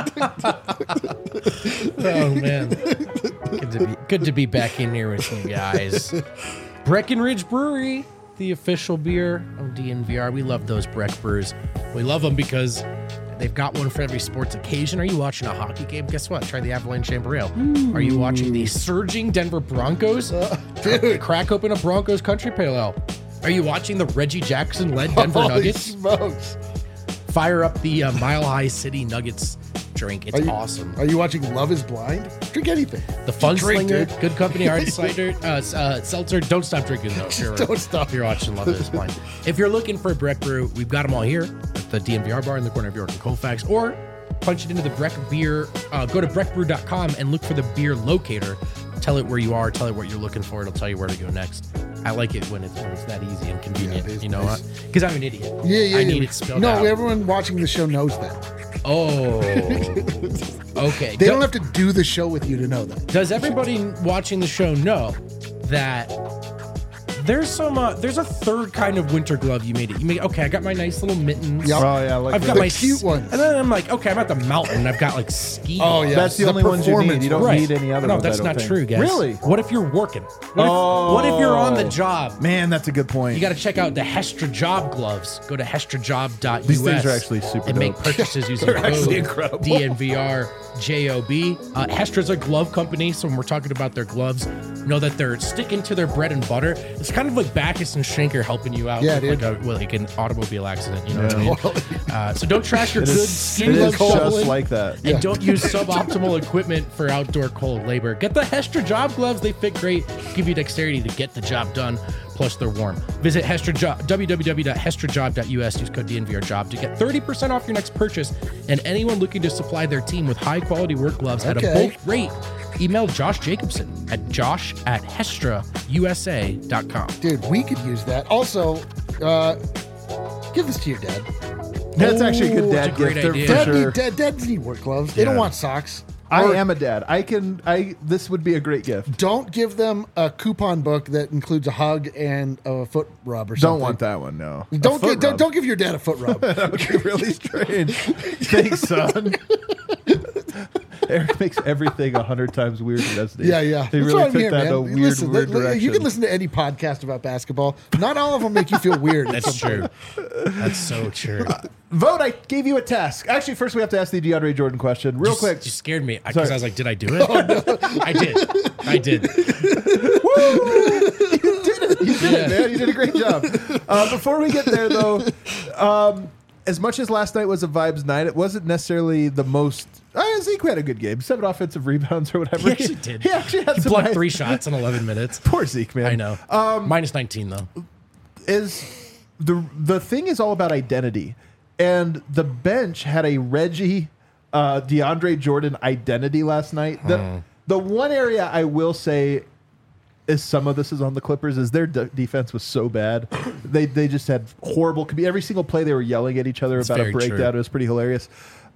the break. Oh, man. Good to be back in here with you guys. Breckenridge Brewery, the official beer of DNVR. We love those Breck Brews. We love them because they've got one for every sports occasion. Are you watching a hockey game? Guess what? Try the Avalanche Amber Ale. Are you watching the surging Denver Broncos? Crack open a Broncos Country Pale Ale. Are you watching the Reggie Jackson-led Denver Nuggets? Smokes. Fire up the Mile High City Nuggets drink. It's awesome. Are you watching Love is Blind? Drink anything. The Fun Slinger, Good Company Hard Cider, Seltzer. Don't stop drinking, though. Don't stop. If you're watching Love is Blind. If you're looking for a Breck Brew, we've got them all here at the DNVR bar in the corner of York and Colfax. Or punch it into the Breck Beer. Go to breckbrew.com and look for the beer locator. Tell it where you are. Tell it what you're looking for. It'll tell you where to go next. I like it when it's that easy and convenient. You know what? Because I'm an idiot. I need it spelled out. No, everyone watching the show knows that. Oh, okay. They don't have to do the show with you to know that. Does everybody watching the show know that there's a third kind of winter glove you made it? Okay, I got my nice little mittens. Yep. Oh yeah, I've got my cute ones. And then I'm like, okay, I'm at the mountain. I've got like ski. Oh yeah, that's the only ones you need. You don't need any other. No, ones, that's not true, guys. Really? What if you're working? What if you're on the job? Man, that's a good point. You got to check out the Hestra Job gloves. Go to hestrajob.us. These things are actually super and dope. make purchases using code DNVR JOB. Hestra's a glove company, so when we're talking about their gloves, know that they're sticking to their bread and butter. It's kind of like Backus and Schenker helping you out with like an automobile accident. You know what I mean? So don't trash your good skin glove just like that. And don't use suboptimal equipment for outdoor cold labor. Get the Hestra Job gloves. They fit great, give you dexterity to get the job done. Plus, they're warm. Visit www.hestrajob.us. Use code DNVRJOB to get 30% off your next purchase. And anyone looking to supply their team with high-quality work gloves at a bulk rate, email Josh Jacobson at josh@hestrausa.com. Dude, we could use that. Also, give this to your dad. That's actually a good dad gift. Dads need work gloves. They don't want socks. I am a dad. This would be a great gift. Don't give them a coupon book that includes a hug and a foot rub or something. Don't want that one, no. Don't give your dad a foot rub. That would be really strange. Thanks, son. Eric makes everything 100 times weirder, doesn't he? Yeah. He really took that in a weird direction. You can listen to any podcast about basketball. Not all of them make you feel weird. That's true. That's so true. Vote, I gave you a task. Actually, first we have to ask the DeAndre Jordan question. Real quick. You scared me because I was like, did I do it? Oh, no. I did. Woo! You did it, man. You did a great job. Before we get there, though, as much as last night was a vibes night, it wasn't necessarily the most... Zeke had a good game. 7 offensive rebounds or whatever. He actually did. He actually had He blocked 3 shots in 11 minutes. Poor Zeke, man. I know. Minus 19, though. The thing is all about identity. And the bench had a Reggie, DeAndre Jordan identity last night. The one area I will say some of this is on the Clippers, is their defense was so bad. They just had horrible. Every single play they were yelling at each other about a breakdown. True. It was pretty hilarious.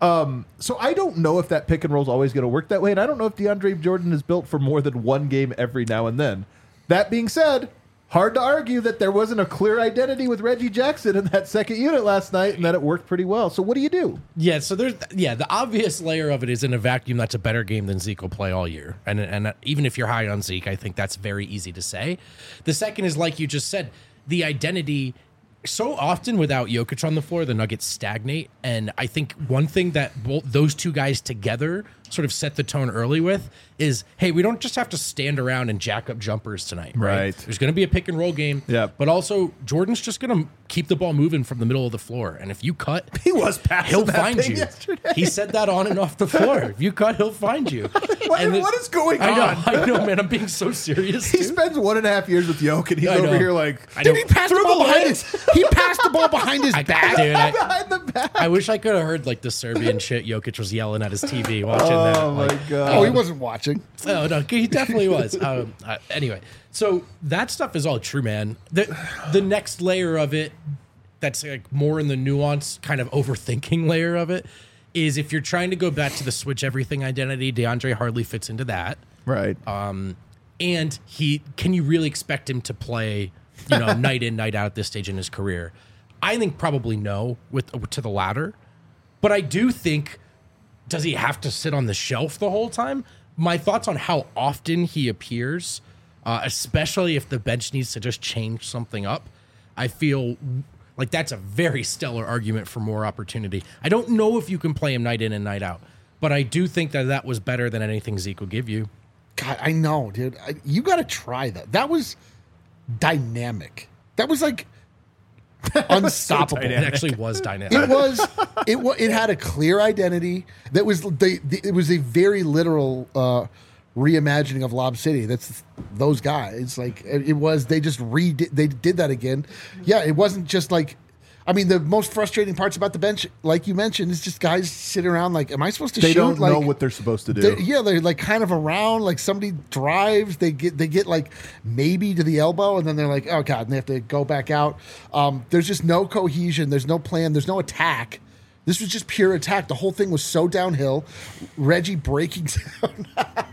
So I don't know if that pick and roll is always going to work that way, and I don't know if DeAndre Jordan is built for more than one game every now and then. That being said, hard to argue that there wasn't a clear identity with Reggie Jackson in that second unit last night and that it worked pretty well. So what do you do? Yeah, so the obvious layer of it is in a vacuum that's a better game than Zeke will play all year. And even if you're high on Zeke, I think that's very easy to say. The second is, like you just said, the identity. So often without Jokic on the floor, the Nuggets stagnate. And I think one thing that those two guys together sort of set the tone early with is, hey, we don't just have to stand around and jack up jumpers tonight. Right. There's going to be a pick and roll game. Yeah. But also, Jordan's just going to keep the ball moving from the middle of the floor. And if you cut, he'll find you. Yesterday. He said that on and off the floor. If you cut, he'll find you. What is going on? I know, man. I'm being so serious. He spends 1.5 years with Yoke, and he's over here like, dude, he passed the ball behind his. He passed the ball behind his back. Dude, behind the back. I wish I could have heard like the Serbian shit Jokic was yelling at his TV watching that. Oh my god! Oh, he wasn't watching. Oh no, he definitely was. Anyway, so that stuff is all true, man. The next layer of it, that's like more in the nuance, kind of overthinking layer of it, is if you're trying to go back to the switch everything identity, DeAndre hardly fits into that. Right. And can you really expect him to play, night in, night out at this stage in his career? I think probably no, to the latter. But I do think, does he have to sit on the shelf the whole time? My thoughts on how often he appears, especially if the bench needs to just change something up, I feel like that's a very stellar argument for more opportunity. I don't know if you can play him night in and night out, but I do think that was better than anything Zeke will give you. God, I know, dude. You got to try that. That was dynamic. That was like unstoppable. It actually was dynamic. It had a clear identity. That was it was a very literal reimagining of Lob City. That's those guys. Like it was. They just they did that again. Yeah, it wasn't just like. I mean, the most frustrating parts about the bench, like you mentioned, is just guys sitting around like, am I supposed to shoot? They don't know what they're supposed to do. They're like kind of around, like somebody drives, they get like maybe to the elbow, and then they're like, oh God, and they have to go back out. There's just no cohesion. There's no plan. There's no attack. This was just pure attack. The whole thing was so downhill. Reggie breaking down.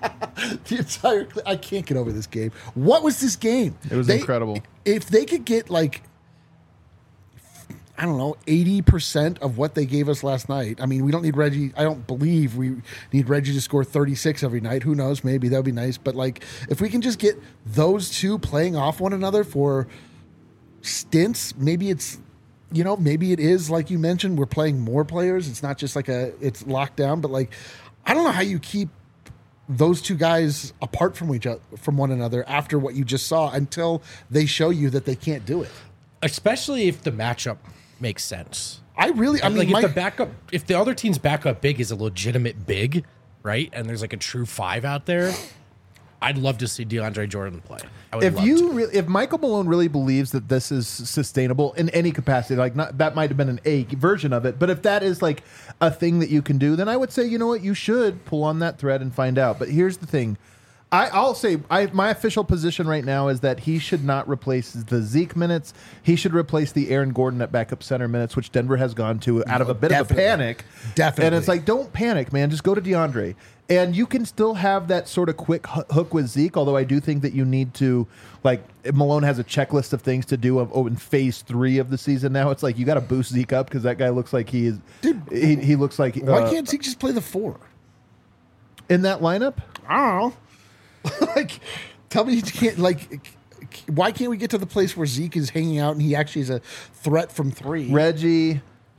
I can't get over this game. What was this game? It was incredible. If they could get like, I don't know, 80% of what they gave us last night. I mean, we don't need Reggie. I don't believe we need Reggie to score 36 every night. Who knows? Maybe that would be nice. But like, if we can just get those two playing off one another for stints, maybe it's, maybe it is like you mentioned, we're playing more players. It's not just like it's locked down, but like, I don't know how you keep those two guys apart from one another after what you just saw until they show you that they can't do it. Especially if the matchup makes sense. I mean, if the other team's backup big is a legitimate big, right? And there's like a true 5 out there, I'd love to see DeAndre Jordan play. If Michael Malone really believes that this is sustainable in any capacity, like that might have been an A version of it, but if that is like a thing that you can do, then I would say, you know what, you should pull on that thread and find out. But here's the thing. I'll say my official position right now is that he should not replace the Zeke minutes. He should replace the Aaron Gordon at backup center minutes, which Denver has gone to out of a bit of a panic. Definitely. And it's like, don't panic, man. Just go to DeAndre. And you can still have that sort of quick hook with Zeke, although I do think that you need to, like, Malone has a checklist of things to do in phase 3 of the season now. It's like, you got to boost Zeke up because that guy looks like he is. Dude, he looks like. Why can't Zeke just play the 4? In that lineup? I don't know. Like, tell me you can't, like, why can't we get to the place where Zeke is hanging out and he actually is a threat from 3? Reggie,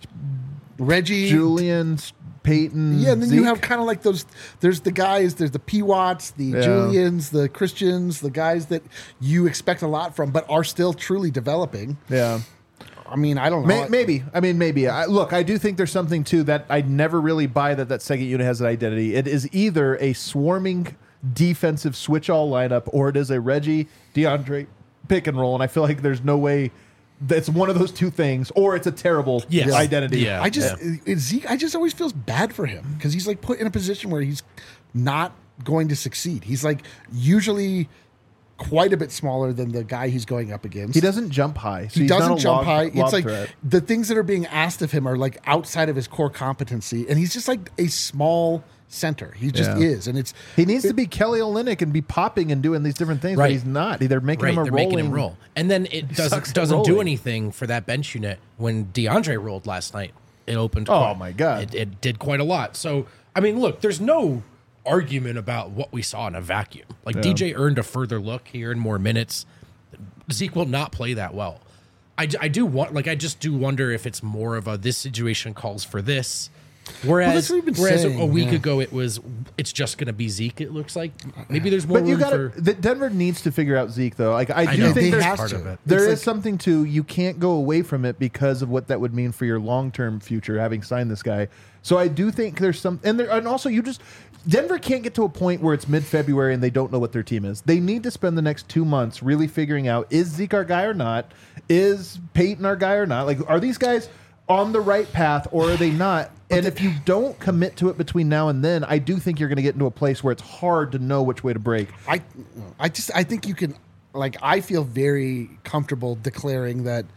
Julian, Peyton. Yeah, and then Zeke. you have kind of like those, there's the guys, there's the P. Watts, the Julians, the Christians, the guys that you expect a lot from, but are still truly developing. Yeah. I mean, I don't know. Maybe. Look, I do think there's something too that I never really buy that second unit has an identity. It is either a swarming defensive switch all lineup or it is a Reggie DeAndre pick and roll, and I feel like there's no way that's one of those two things, or it's a terrible identity. Yeah. Zeke, I just always feels bad for him because he's like put in a position where he's not going to succeed. He's like usually quite a bit smaller than the guy he's going up against. He doesn't jump high. So he doesn't jump high. It's like threat. The things that are being asked of him are like outside of his core competency, and he's just like a small center. He just is, and he needs to be Kelly Olynyk and be popping and doing these different things, but he's not. They're making him making him roll, and then it doesn't do anything for that bench unit. When DeAndre rolled last night, it opened. My God, it did quite a lot. So I mean, look, there's no argument about what we saw in a vacuum. Like DJ earned a further look here in more minutes. Zeke will not play that well. I just do wonder if it's more of this situation calls for this. Whereas a week ago it's just going to be Zeke. It looks like maybe there's more. But Denver needs to figure out Zeke though. Like I do think there's part of it. There is something to you can't go away from it because of what that would mean for your long term future having signed this guy. So I do think there's some and also Denver can't get to a point where it's mid-February and they don't know what their team is. They need to spend the next 2 months really figuring out, is Zeke our guy or not? Is Peyton our guy or not? Like, are these guys on the right path or are they not? And if you don't commit to it between now and then, I do think you're going to get into a place where it's hard to know which way to break. I think you can, like, I feel very comfortable declaring that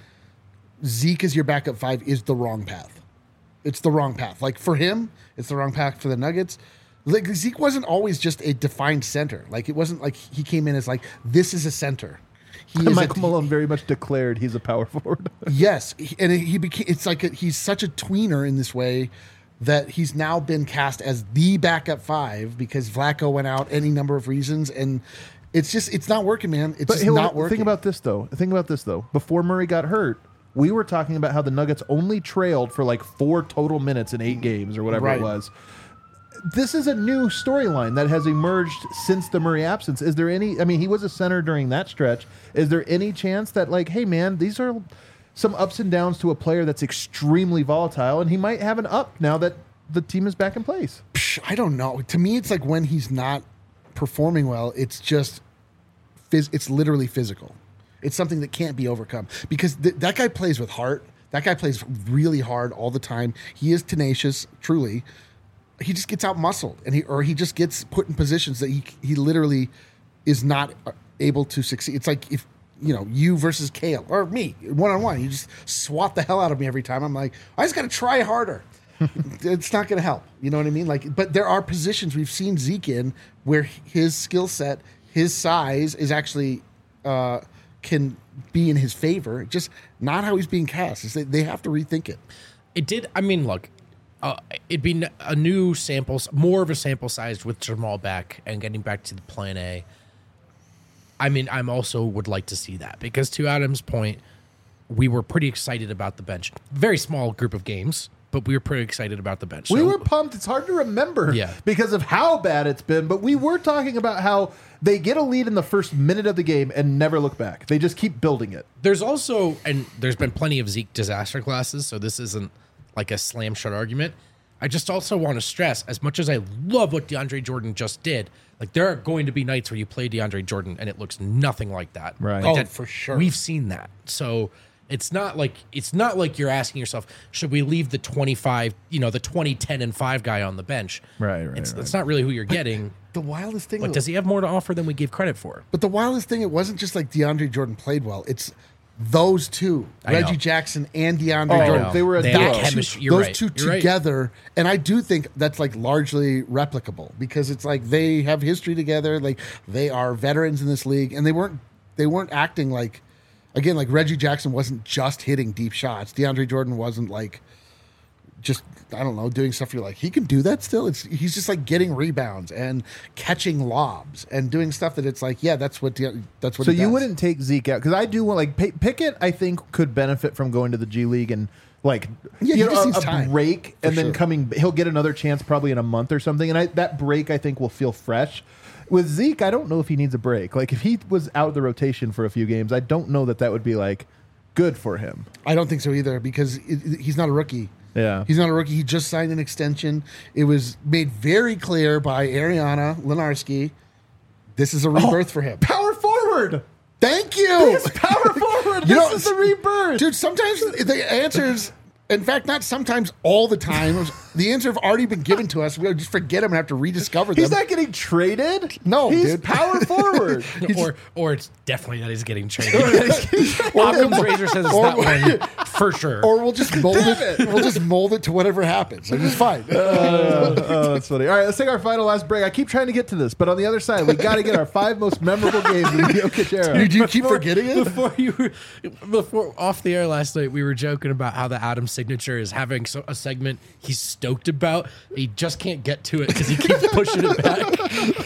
Zeke as your backup 5 is the wrong path. It's the wrong path. Like, for him, it's the wrong path for the Nuggets. Like, Zeke wasn't always just a defined center. Like, it wasn't like he came in as like, this is a center. Michael Malone very much declared he's a power forward. Yes, and he became. It's like he's such a tweener in this way that he's now been cast as the backup 5 because Vlatko went out any number of reasons, and it's not working, man. It's not working. Think about this though. Before Murray got hurt, we were talking about how the Nuggets only trailed for like 4 total minutes in 8 games or whatever it was. This is a new storyline that has emerged since the Murray absence. Is there any? I mean, he was a center during that stretch. Is there any chance that, like, hey, man, these are some ups and downs to a player that's extremely volatile, and he might have an up now that the team is back in place? I don't know. To me, it's like when he's not performing well, it's just it's literally physical. It's something that can't be overcome because that guy plays with heart. That guy plays really hard all the time. He is tenacious, truly. He just gets out muscled, and he just gets put in positions that he literally is not able to succeed. It's like if you versus Kale or me 1-on-1, you just swat the hell out of me every time. I'm like, I just got to try harder. It's not going to help. You know what I mean? Like, but there are positions we've seen Zeke in where his skill set, his size is actually can be in his favor. Just not how he's being cast. They have to rethink it. It did. I mean, look. It'd be a new sample, more of a sample size with Jamal back and getting back to the plan A. I mean, I'm also would like to see that because to Adam's point, we were pretty excited about the bench. Very small group of games, but we were pretty excited about the bench. We were pumped. It's hard to remember because of how bad it's been, but we were talking about how they get a lead in the first minute of the game and never look back. They just keep building it. There's been plenty of Zeke disaster classes, so this isn't like a slam shut argument. I just also want to stress, as much as I love what DeAndre Jordan just did, like there are going to be nights where you play DeAndre Jordan and it looks nothing like that. Right. Like for sure. We've seen that. So it's not like you're asking yourself, should we leave the 25, the 20, 10, and 5 guy on the bench? Right. That's not really who you're getting. The wildest thing. But does he have more to offer than we give credit for? But the wildest thing, it wasn't just like DeAndre Jordan played well. It's those two, Reggie Jackson and DeAndre Jordan. They were a duo. Those two together. Right. And I do think that's like largely replicable because it's like they have history together. Like they are veterans in this league and they weren't acting like, again, like Reggie Jackson wasn't just hitting deep shots. DeAndre Jordan wasn't like just, I don't know, doing stuff you're like, he can do that still? He's just like getting rebounds and catching lobs and doing stuff that it's like, yeah, that's what So you wouldn't take Zeke out? Because I do want, like, Pickett, I think, could benefit from going to the G League and, like, a break and then coming. He'll get another chance probably in a month or something. And that break, I think, will feel fresh. With Zeke, I don't know if he needs a break. Like, if he was out of the rotation for a few games, I don't know that would be, like, good for him. I don't think so either because he's not a rookie. Yeah. He's not a rookie. He just signed an extension. It was made very clear by Ariana Lenarski. This is a rebirth for him. Power forward. Thank you. This power forward. This is a rebirth. Dude, sometimes the answers, in fact, not sometimes, all the time, The answer have already been given to us. We just forget them and have to rediscover them. He's not getting traded. No, he's dude. power forward. or it's definitely that he's getting traded. Occam's razor says it's that one for sure. Or we'll just mold it. We'll just mold it to whatever happens. Like, it's fine. That's funny. All right, let's take our final last break. I keep trying to get to this, but on the other side, we got to get our 5 most memorable games in the Jokic era. Do you keep forgetting it? Before off the air last night, we were joking about how the Adam signature is having a segment he's stoked about. He just can't get to it because he keeps pushing it back.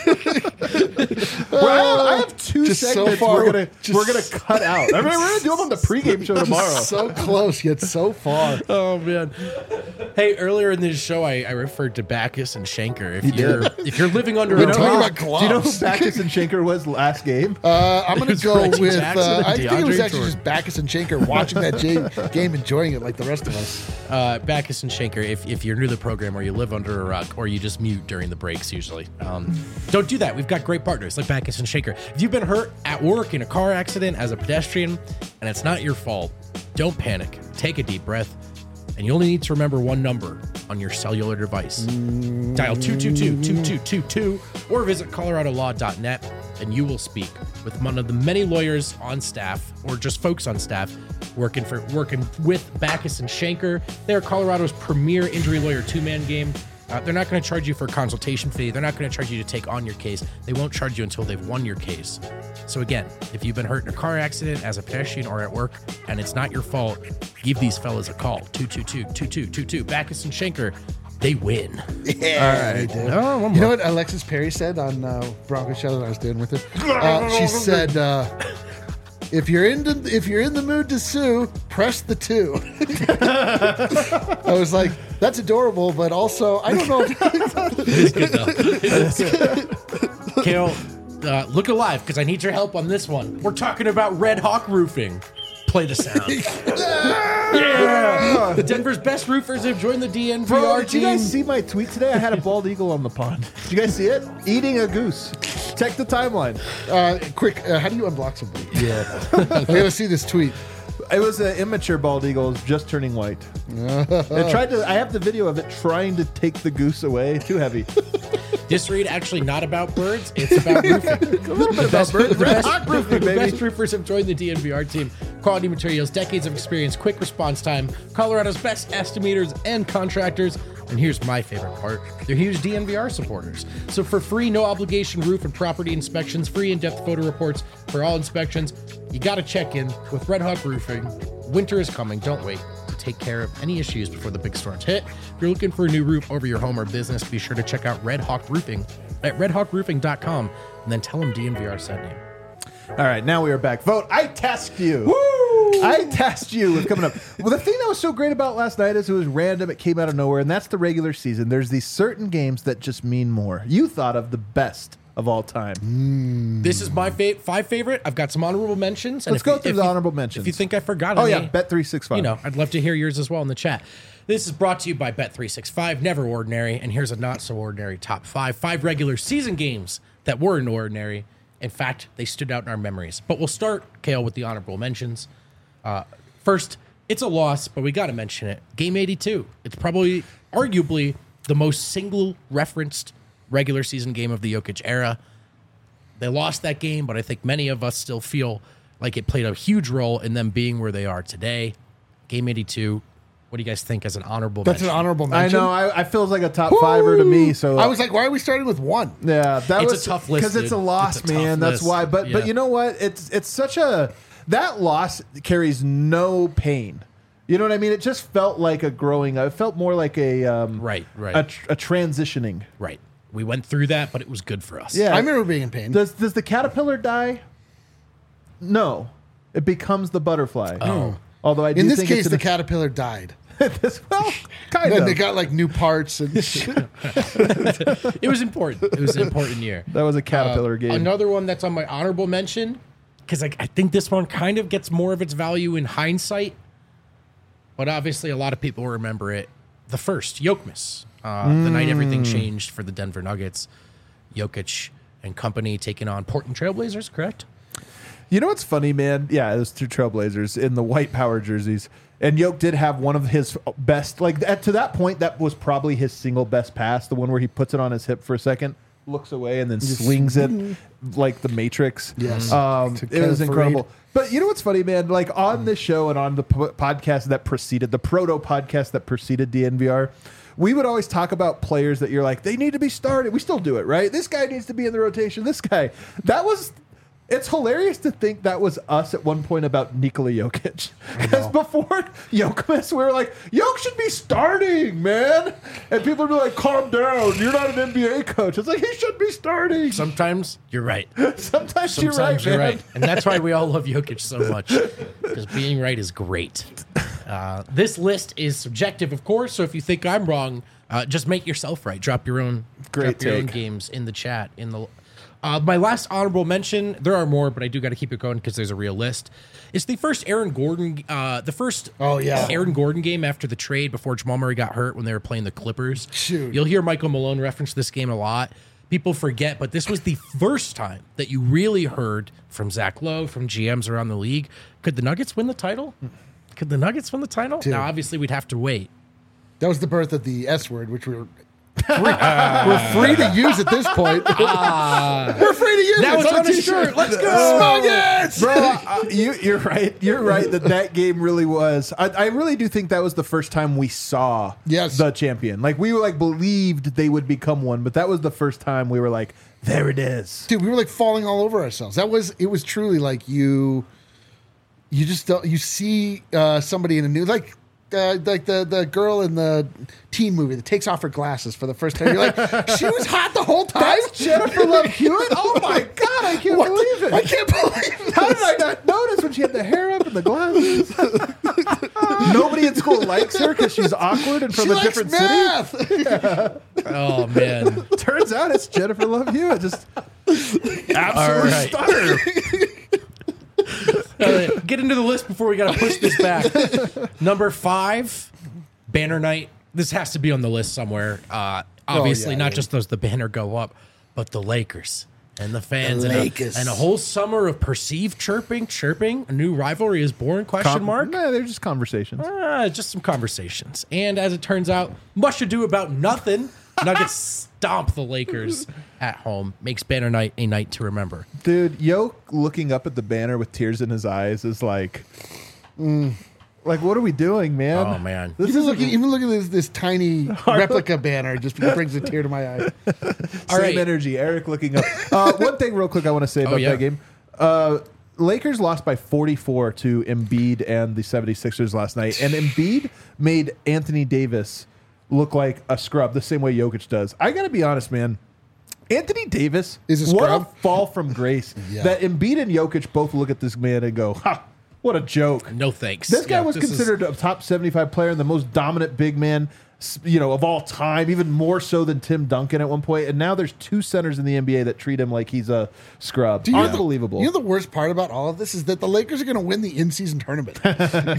Well, I have 2 just segments so far, we're gonna cut out. I mean, we're gonna do them on the pregame show tomorrow. So close yet so far. Oh man! Hey, earlier in this show, I referred to Backus and Schenker. If you're living under a rock, do you know who Backus and Schenker was last game? I'm going to go with. I think it was actually Jordan. just Backus and Schenker watching that game, enjoying it like the rest of us. Backus and Schenker. If you're new to the program or you live under a rock or you just mute during the breaks, usually don't do that. We've got great partners like Backus and Schenker. If you've been hurt at work in a car accident as a pedestrian and it's not your fault, don't panic. Take a deep breath. And you only need to remember one number on your cellular device. Dial 222-2222 or visit coloradolaw.net and you will speak with one of the many lawyers on staff or just folks on staff working with Backus and Schenker. They're Colorado's premier injury lawyer 2-man game. They're not going to charge you for a consultation fee. They're not going to charge you to take on your case. They won't charge you until they've won your case. So again, if you've been hurt in a car accident as a pedestrian or at work and it's not your fault, give these fellas a call. 222-2222. Backus and Schenker, they win. Yeah. All right. You know what Alexis Perry said on Bronco show that I was doing with her? She said, if you're in the mood to sue, press the 2. I was like, that's adorable, but also I don't know. It is good though. It is good. Kale, look alive because I need your help on this one. We're talking about Red Hawk Roofing. Play the sound. Yeah! The Denver's best roofers have joined the DNVR Bro, team. did you guys see my tweet today? I had a bald eagle on the pond. Did you guys see it? Eating a goose. Check the timeline. Quick, how do you unblock somebody? Yeah. I gotta see this tweet. It was an immature bald eagle. It was just turning white. I have the video of it trying to take the goose away. Too heavy. This read actually not about birds. It's about roofing. A little bit about birds. Red Hawk roofing, The baby. best roofers have joined the DNVR team. Quality materials, decades of experience, quick response time, Colorado's best estimators and contractors. And here's my favorite part. They're huge DNVR supporters. So for free, no obligation roof and property inspections, free in-depth photo reports for all inspections, you got to check in with Red Hawk Roofing. Winter is coming. Don't wait to take care of any issues before the big storms hit. If you're looking for a new roof over your home or business, be sure to check out Red Hawk Roofing at redhawkroofing.com and then tell them DNVR sent you. All right, now we are back. Vote. I tasked you. Woo! I tasked you with coming up. Well, the thing that was so great about last night is it was random. It came out of nowhere, and that's the regular season. There's these certain games that just mean more. You thought of the best of all time. This is my 5 favorite. I've got some honorable mentions. Let's go through the honorable mentions. If you think I forgot Oh, any, yeah, Bet365. You know, I'd love to hear yours as well in the chat. This is brought to you by Bet365, never ordinary. And here's a not so ordinary top 5. 5 regular season games that weren't ordinary. In fact, they stood out in our memories. But we'll start, Kale, with the honorable mentions. First, it's a loss, but we got to mention it. Game 82. It's probably, arguably, the most single referenced regular season game of the Jokic era. They lost that game, but I think many of us still feel like it played a huge role in them being where they are today. Game 82. What do you guys think as an honorable mention? That's an honorable mention. I know. I feels like a top fiver to me. So I was like, why are we starting with 1? Yeah, that It's was a tough list, because it's a dude. loss, It's a tough man. That's list. why. But Yeah. you know what? It's such a that loss carries no pain. You know what I mean? It just felt like a growing. It felt more like a Right. a transitioning. Right. We went through that, but it was good for us. Yeah. I remember being in pain. Does the caterpillar die? No, it becomes the butterfly. Oh. Although I do In this think case, it's the caterpillar died. well, kind Then of. they got like new parts and It was important. It was an important year. That was a caterpillar game. Another one that's on my honorable mention, because I think this one kind of gets more of its value in hindsight, but obviously a lot of people remember it. The first, Jokmas. The night everything changed for the Denver Nuggets. Jokic and company taking on Portland Trailblazers, correct? You know what's funny, man? Yeah, it was 2 Trailblazers in the white power jerseys. And Yoke did have one of his best, to that point, that was probably his single best pass, the one where he puts it on his hip for a second, looks away, and then swings it like the Matrix. Yes. It was incredible. But you know what's funny, man? Like on this show and on the podcast that preceded, the proto podcast that preceded DNVR, we would always talk about players that you're like, they need to be started. We still do it, right? This guy needs to be in the rotation. This guy. It's hilarious to think that was us at one point about Nikola Jokic. Because before Jokic, we were like, Jokic should be starting, man. And people would be like, calm down. You're not an NBA coach. It's like, he should be starting. Sometimes you're right. Sometimes you're right, you're man. right. And that's why we all love Jokic so much. Because being right is great. This list is subjective, of course. So if you think I'm wrong, just make yourself right. Drop your own games in the chat. My last honorable mention, there are more, but I do got to keep it going because there's a real list. It's the first Aaron Gordon Aaron Gordon game after the trade before Jamal Murray got hurt when they were playing the Clippers. Shoot. You'll hear Michael Malone reference this game a lot. People forget, but this was the first time that you really heard from Zach Lowe, from GMs around the league. Could the Nuggets win the title? Dude. Now, obviously, we'd have to wait. That was the birth of the S word, which we're free to use at this point. We're free to use it. Now it's on a shirt. Let's go. Nuggets! Bro, you're right. You're right that game really was. I really do think that was the first time we saw the champion. Like, we were believed they would become one, but that was the first time we were like, there it is. Dude, we were falling all over ourselves. It was truly like you just don't, you see somebody in a new, like the girl in the teen movie that takes off her glasses for the first time. You're like, she was hot the whole time? That's Jennifer Love Hewitt? Oh my God, I can't believe it. I can't believe it. How did I not notice when she had the hair up and the glasses? Nobody in school likes her because she's awkward and from a different city? Oh, man. Turns out it's Jennifer Love Hewitt. Just absolute stunner. Get into the list before we got to push this back. Number 5, Banner Night. This has to be on the list somewhere. Obviously, not just does the banner go up, but the Lakers and the fans and a whole summer of perceived chirping. A new rivalry is born? Question mark. Nah, they're just conversations. Just some conversations. And as it turns out, much ado about nothing. Nuggets stomp the Lakers at home. Makes Banner Night a night to remember. Dude, Yoke looking up at the banner with tears in his eyes is like, what are we doing, man? Oh, man. Even looking at this tiny replica banner just brings a tear to my eye. Same energy. Eric looking up. One thing real quick I want to say about that game. Lakers lost by 44 to Embiid and the 76ers last night. And Embiid made Anthony Davis look like a scrub the same way Jokic does. I got to be honest, man. Anthony Davis is a scrub. What a fall from grace. That Embiid and Jokic both look at this man and go, ha, what a joke. No thanks. This guy was considered a top 75 player and the most dominant big man, of all time, even more so than Tim Duncan at one point. And now there's 2 centers in the NBA that treat him like he's a scrub. Unbelievable. You know the worst part about all of this is that the Lakers are going to win the in-season tournament. And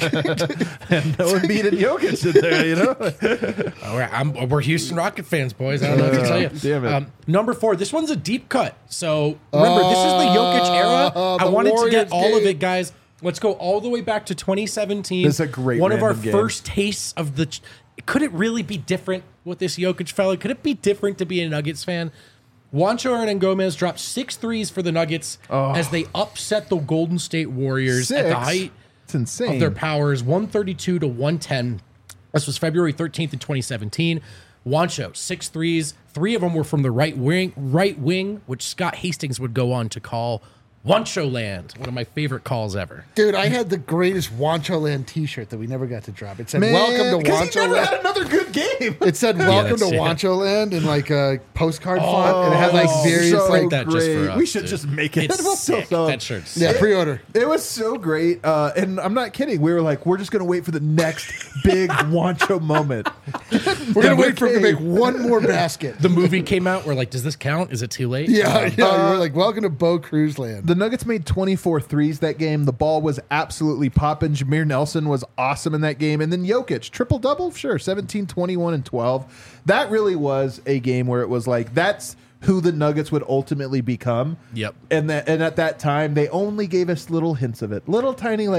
no Embiid and Jokic in there, We're Houston Rocket fans, boys. I don't know what to tell you. Damn it. Number 4. This one's a deep cut. So remember, this is the Jokic era. I wanted to get all of it, guys. Let's go all the way back to 2017. This is a great one of our game. First tastes of the. Could it really be different with this Jokic fella? Could it be different to be a Nuggets fan? Juancho Hernangomez dropped 6 threes for the Nuggets as they upset the Golden State Warriors at the height of their powers, 132 to 110. This was February 13th in 2017. Juancho, 6 threes. 3 of them were from the right wing, which Scott Hastings would go on to call Juancho Land, one of my favorite calls ever. Dude, I had the greatest Juancho Land t-shirt that we never got to drop. It said, welcome to Juancho Land. He never Land. had another good game. It said, welcome to Juancho Land in a postcard font. And it had various so that just for us, we should just make it. It's sick. That shirt's sick. Yeah, pre-order. It was so great. And I'm not kidding. We were like, we're just going to wait for the next big Juancho moment. We're going to wait for him to make one more basket. The movie came out. We're like, does this count? Is it too late? Yeah. We're like, welcome to Bo Cruz Land. The Nuggets made 24 threes that game. The ball was absolutely popping. Jameer Nelson was awesome in that game. And then Jokic, triple-double? Sure, 17, 21, and 12. That really was a game where it was like, that's who the Nuggets would ultimately become. Yep. And at that time, they only gave us little hints of it. Little tiny,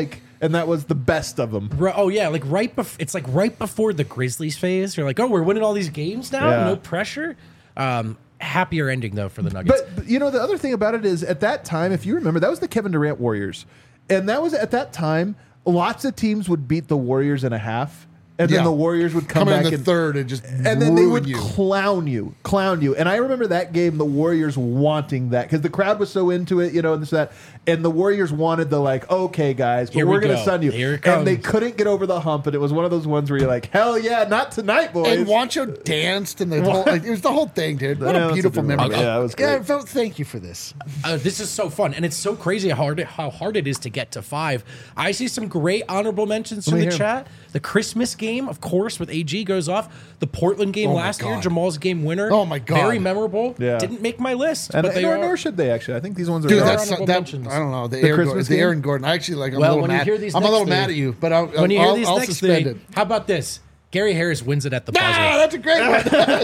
and that was the best of them. Oh yeah, like it's like right before the Grizzlies phase. You're like, oh, we're winning all these games now, no pressure. Happier ending though for the Nuggets. But the other thing about it is at that time, if you remember, that was the Kevin Durant Warriors, and that was at that time. Lots of teams would beat the Warriors in a half. And then the Warriors would come back in the third and just and then they would clown you. And I remember that game, the Warriors wanting that because the crowd was so into it, and this that. And the Warriors wanted the okay, guys, but we're going to sun you. Here it comes. And they couldn't get over the hump, and it was one of those ones where you're like, hell yeah, not tonight, boys. And Juancho danced, and it was the whole thing, dude. What a beautiful memory. Yeah, it was great. Thank you for this. This is so fun, and it's so crazy how hard it is to get to 5. I see some great honorable mentions from the chat. The Christmas game, of course, with AG goes off. The Portland game last year, Jamal's game winner. Oh my God, very memorable. Yeah. Didn't make my list, but nor should they actually. I think these ones are honorable mentions. I don't know the Aaron Gordon. I actually I'm a little mad. I'm a little mad at you, but I'll suspend it. How about this? Gary Harris wins it at the buzzer. That's a great one.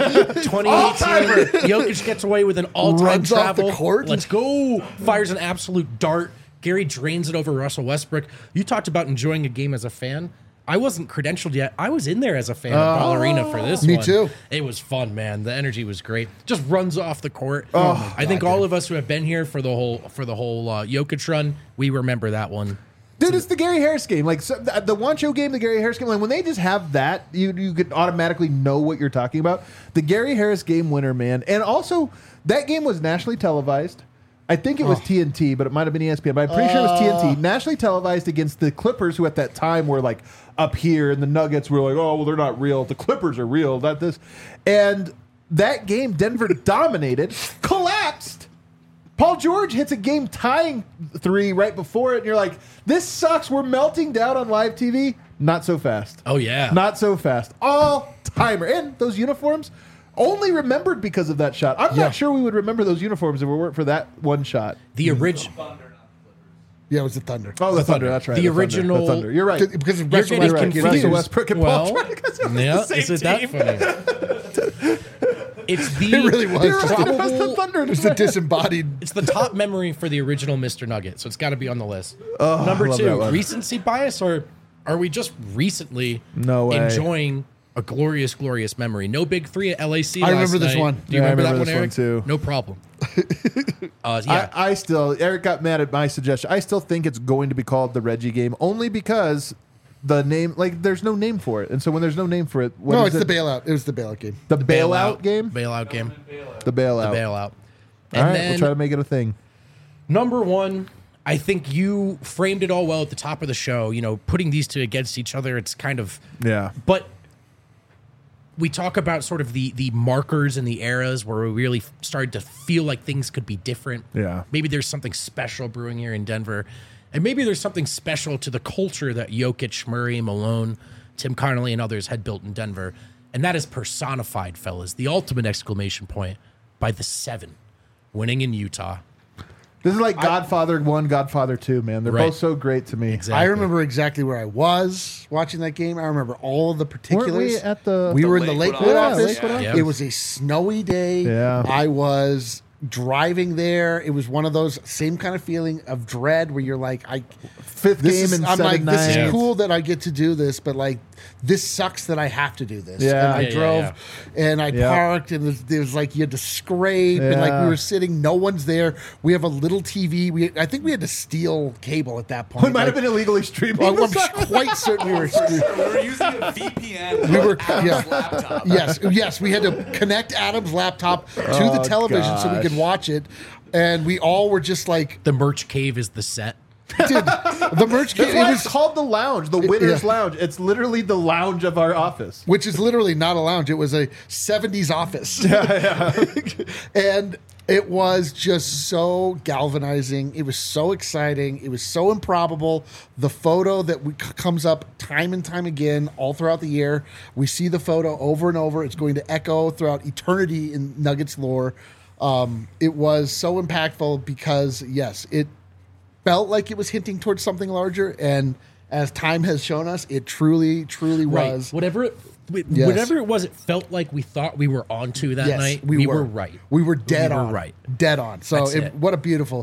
2018, Jokic gets away with an all-time travel. Off the court. Let's go. Fires an absolute dart. Gary drains it over Russell Westbrook. You talked about enjoying a game as a fan. I wasn't credentialed yet. I was in there as a fan of Ball Arena for this one. Me too. It was fun, man. The energy was great. Just runs off the court. I think all of us who have been here for the whole Jokic run, we remember that one. Dude, it's the Gary Harris game. Like the Juancho game, the Gary Harris game. Like when they just have that, you could automatically know what you're talking about. The Gary Harris game winner, man. And also, that game was nationally televised. I think it was TNT, but it might have been ESPN. But I'm pretty sure it was TNT. Nationally televised against the Clippers, who at that time were like up here, and the Nuggets were like, oh, well, they're not real. The Clippers are real, not this. And that game, Denver dominated, collapsed. Paul George hits a game-tying 3 right before it, and you're like, this sucks. We're melting down on live TV. Not so fast. Oh, yeah. Not so fast. All-timer. And those uniforms, only remembered because of that shot. I'm not sure we would remember those uniforms if it weren't for that one shot. The original... Yeah, it was the Thunder. Oh, the Thunder. That's right. The original... The Thunder. You're right. Because you're getting confused. Russell Westbrook and Paul George. Is it that funny? It's the... It really was. It was the Thunder. It's the disembodied... It's the top memory for the original Mr. Nugget, so it's got to be on the list. Number 2, recency bias, or are we just recently enjoying... a glorious, glorious memory. No Big 3 at LAC. I remember this one. Do you remember that one, this Eric? One too. No problem. I still, Eric got mad at my suggestion. I still think it's going to be called the Reggie game, only because the name, like, there's no name for it. And so when there's no name for it, it's the bailout. It was the bailout game. The bailout game? Bailout game. The bailout. The bailout. And all right, we'll try to make it a thing. Number 1, I think you framed it all well at the top of the show. Putting these two against each other, it's kind of... Yeah. But... we talk about sort of the markers and the eras where we really started to feel like things could be different. Yeah. Maybe there's something special brewing here in Denver. And maybe there's something special to the culture that Jokic, Murray, Malone, Tim Connolly, and others had built in Denver. And that is personified, fellas, the ultimate exclamation point by the 7 winning in Utah. This is like Godfather 1, Godfather 2, man. They're both so great to me. Exactly. I remember exactly where I was watching that game. I remember all of the particulars. Weren't we at the... We were in the Lakewood office. Yeah. It was a snowy day. Yeah. I was driving there. It was one of those same kind of feeling of dread where you're like, fifth game in 7 nights. This is cool that I get to do this, but like, this sucks that I have to do this. Yeah. And I drove and I parked, and there was like, you had to scrape, and like we were sitting, no one's there. We have a little TV. I think we had to steal cable at that point. We might have been illegally streaming. Well, I'm quite certain we were. We were using a VPN. Adam's laptop. Yes. We had to connect Adam's laptop to the television so we could watch it, and we all were just like, the merch cave is the set. Dude, the merch cave. It was called the lounge, the Winner's Lounge. It's literally the lounge of our office, which is literally not a lounge. It was a 70s office. And it was just so galvanizing. It was so exciting. It was so improbable. The photo that comes up time and time again all throughout the year. We see the photo over and over. It's going to echo throughout eternity in Nuggets lore. It was so impactful because, yes, it felt like it was hinting towards something larger, and as time has shown us, it truly was. Whatever it was, it felt like we thought we were onto that night. We were right. We were dead on. Right. Dead on. So what a beautiful.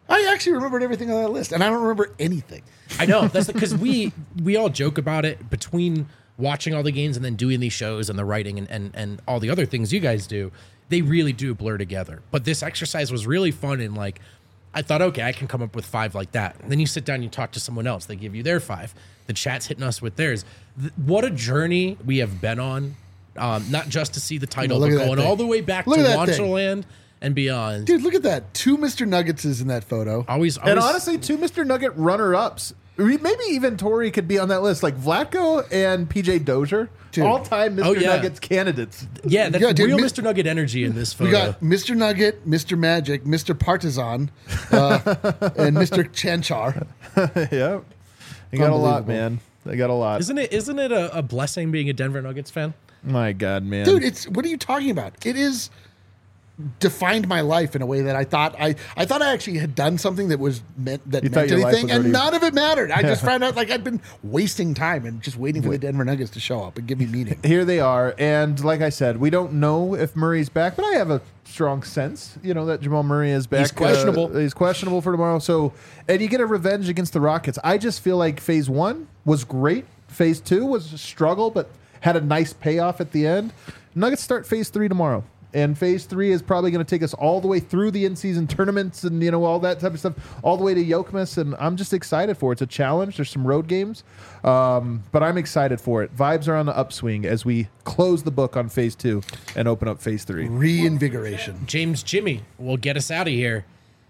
I actually remembered everything on that list, and I don't remember anything. I know. That's because we all joke about it between watching all the games and then doing these shows and the writing and all the other things you guys do. They really do blur together. But this exercise was really fun, and like I thought, okay, I can come up with 5 like that. And then you sit down, you talk to someone else, they give you their 5. The chat's hitting us with theirs. What a journey we have been on. Not just to see the title, but going all the way back to Launcherland and beyond. Dude, look at that. 2 Mr. Nuggets in that photo. Always. And honestly, 2 Mr. Nugget runner-ups. Maybe even Tori could be on that list, like Vlatko and PJ Dozier. All-time Mr. Nuggets candidates. Yeah, that's real Mr. Nugget energy in this photo. We got Mr. Nugget, Mr. Magic, Mr. Partizan, and Mr. Chanchar. Yep. They got a lot, man. They got a lot. Isn't it a blessing being a Denver Nuggets fan? My God, man. Dude, what are you talking about? It is defined my life in a way that I thought I actually had done something that meant anything, and none of it mattered. I just found out like I'd been wasting time and just waiting for the Denver Nuggets to show up and give me meaning. Here they are, and like I said, we don't know if Murray's back, but I have a strong sense, that Jamal Murray is back. He's questionable. He's questionable for tomorrow. So, and you get a revenge against the Rockets. I just feel like Phase 1 was great. Phase 2 was a struggle, but had a nice payoff at the end. Nuggets start Phase 3 tomorrow. And Phase 3 is probably going to take us all the way through the in-season tournaments and, all that type of stuff, all the way to Yokemus. And I'm just excited for it. It's a challenge. There's some road games. But I'm excited for it. Vibes are on the upswing as we close the book on Phase 2 and open up Phase 3. Reinvigoration. James Jimmy will get us out of here.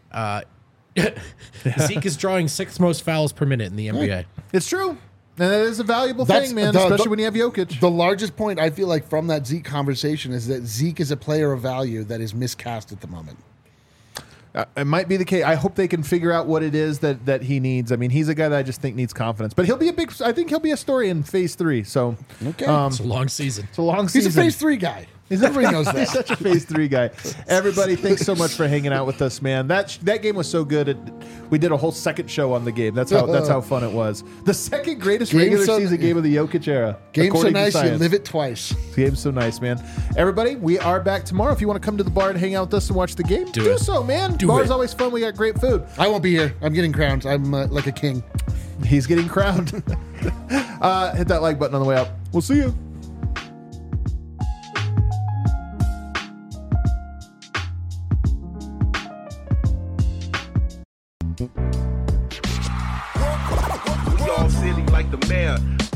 Zeke is drawing 6th most fouls per minute in the NBA. It's true. And it is a valuable thing, man, especially when you have Jokic. The largest point I feel like from that Zeke conversation is that Zeke is a player of value that is miscast at the moment. It might be the case. I hope they can figure out what it is that he needs. I mean, he's a guy that I just think needs confidence. But I think he'll be a story in Phase 3. So, okay. It's a long season. It's a long season. He's a Phase 3 guy. Everybody knows that. He's such a Phase 3 guy. Everybody, thanks so much for hanging out with us, man. That game was so good. We did a whole second show on the game. That's how fun it was. The second greatest regular season game of the Jokic era. Game so nice, you live it twice. Game's so nice, man. Everybody, we are back tomorrow. If you want to come to the bar and hang out with us and watch the game, do so, man. Bar's always fun. We got great food. I won't be here. I'm getting crowned. I'm like a king. He's getting crowned. Hit that like button on the way out. We'll see you. We all silly like the mayor.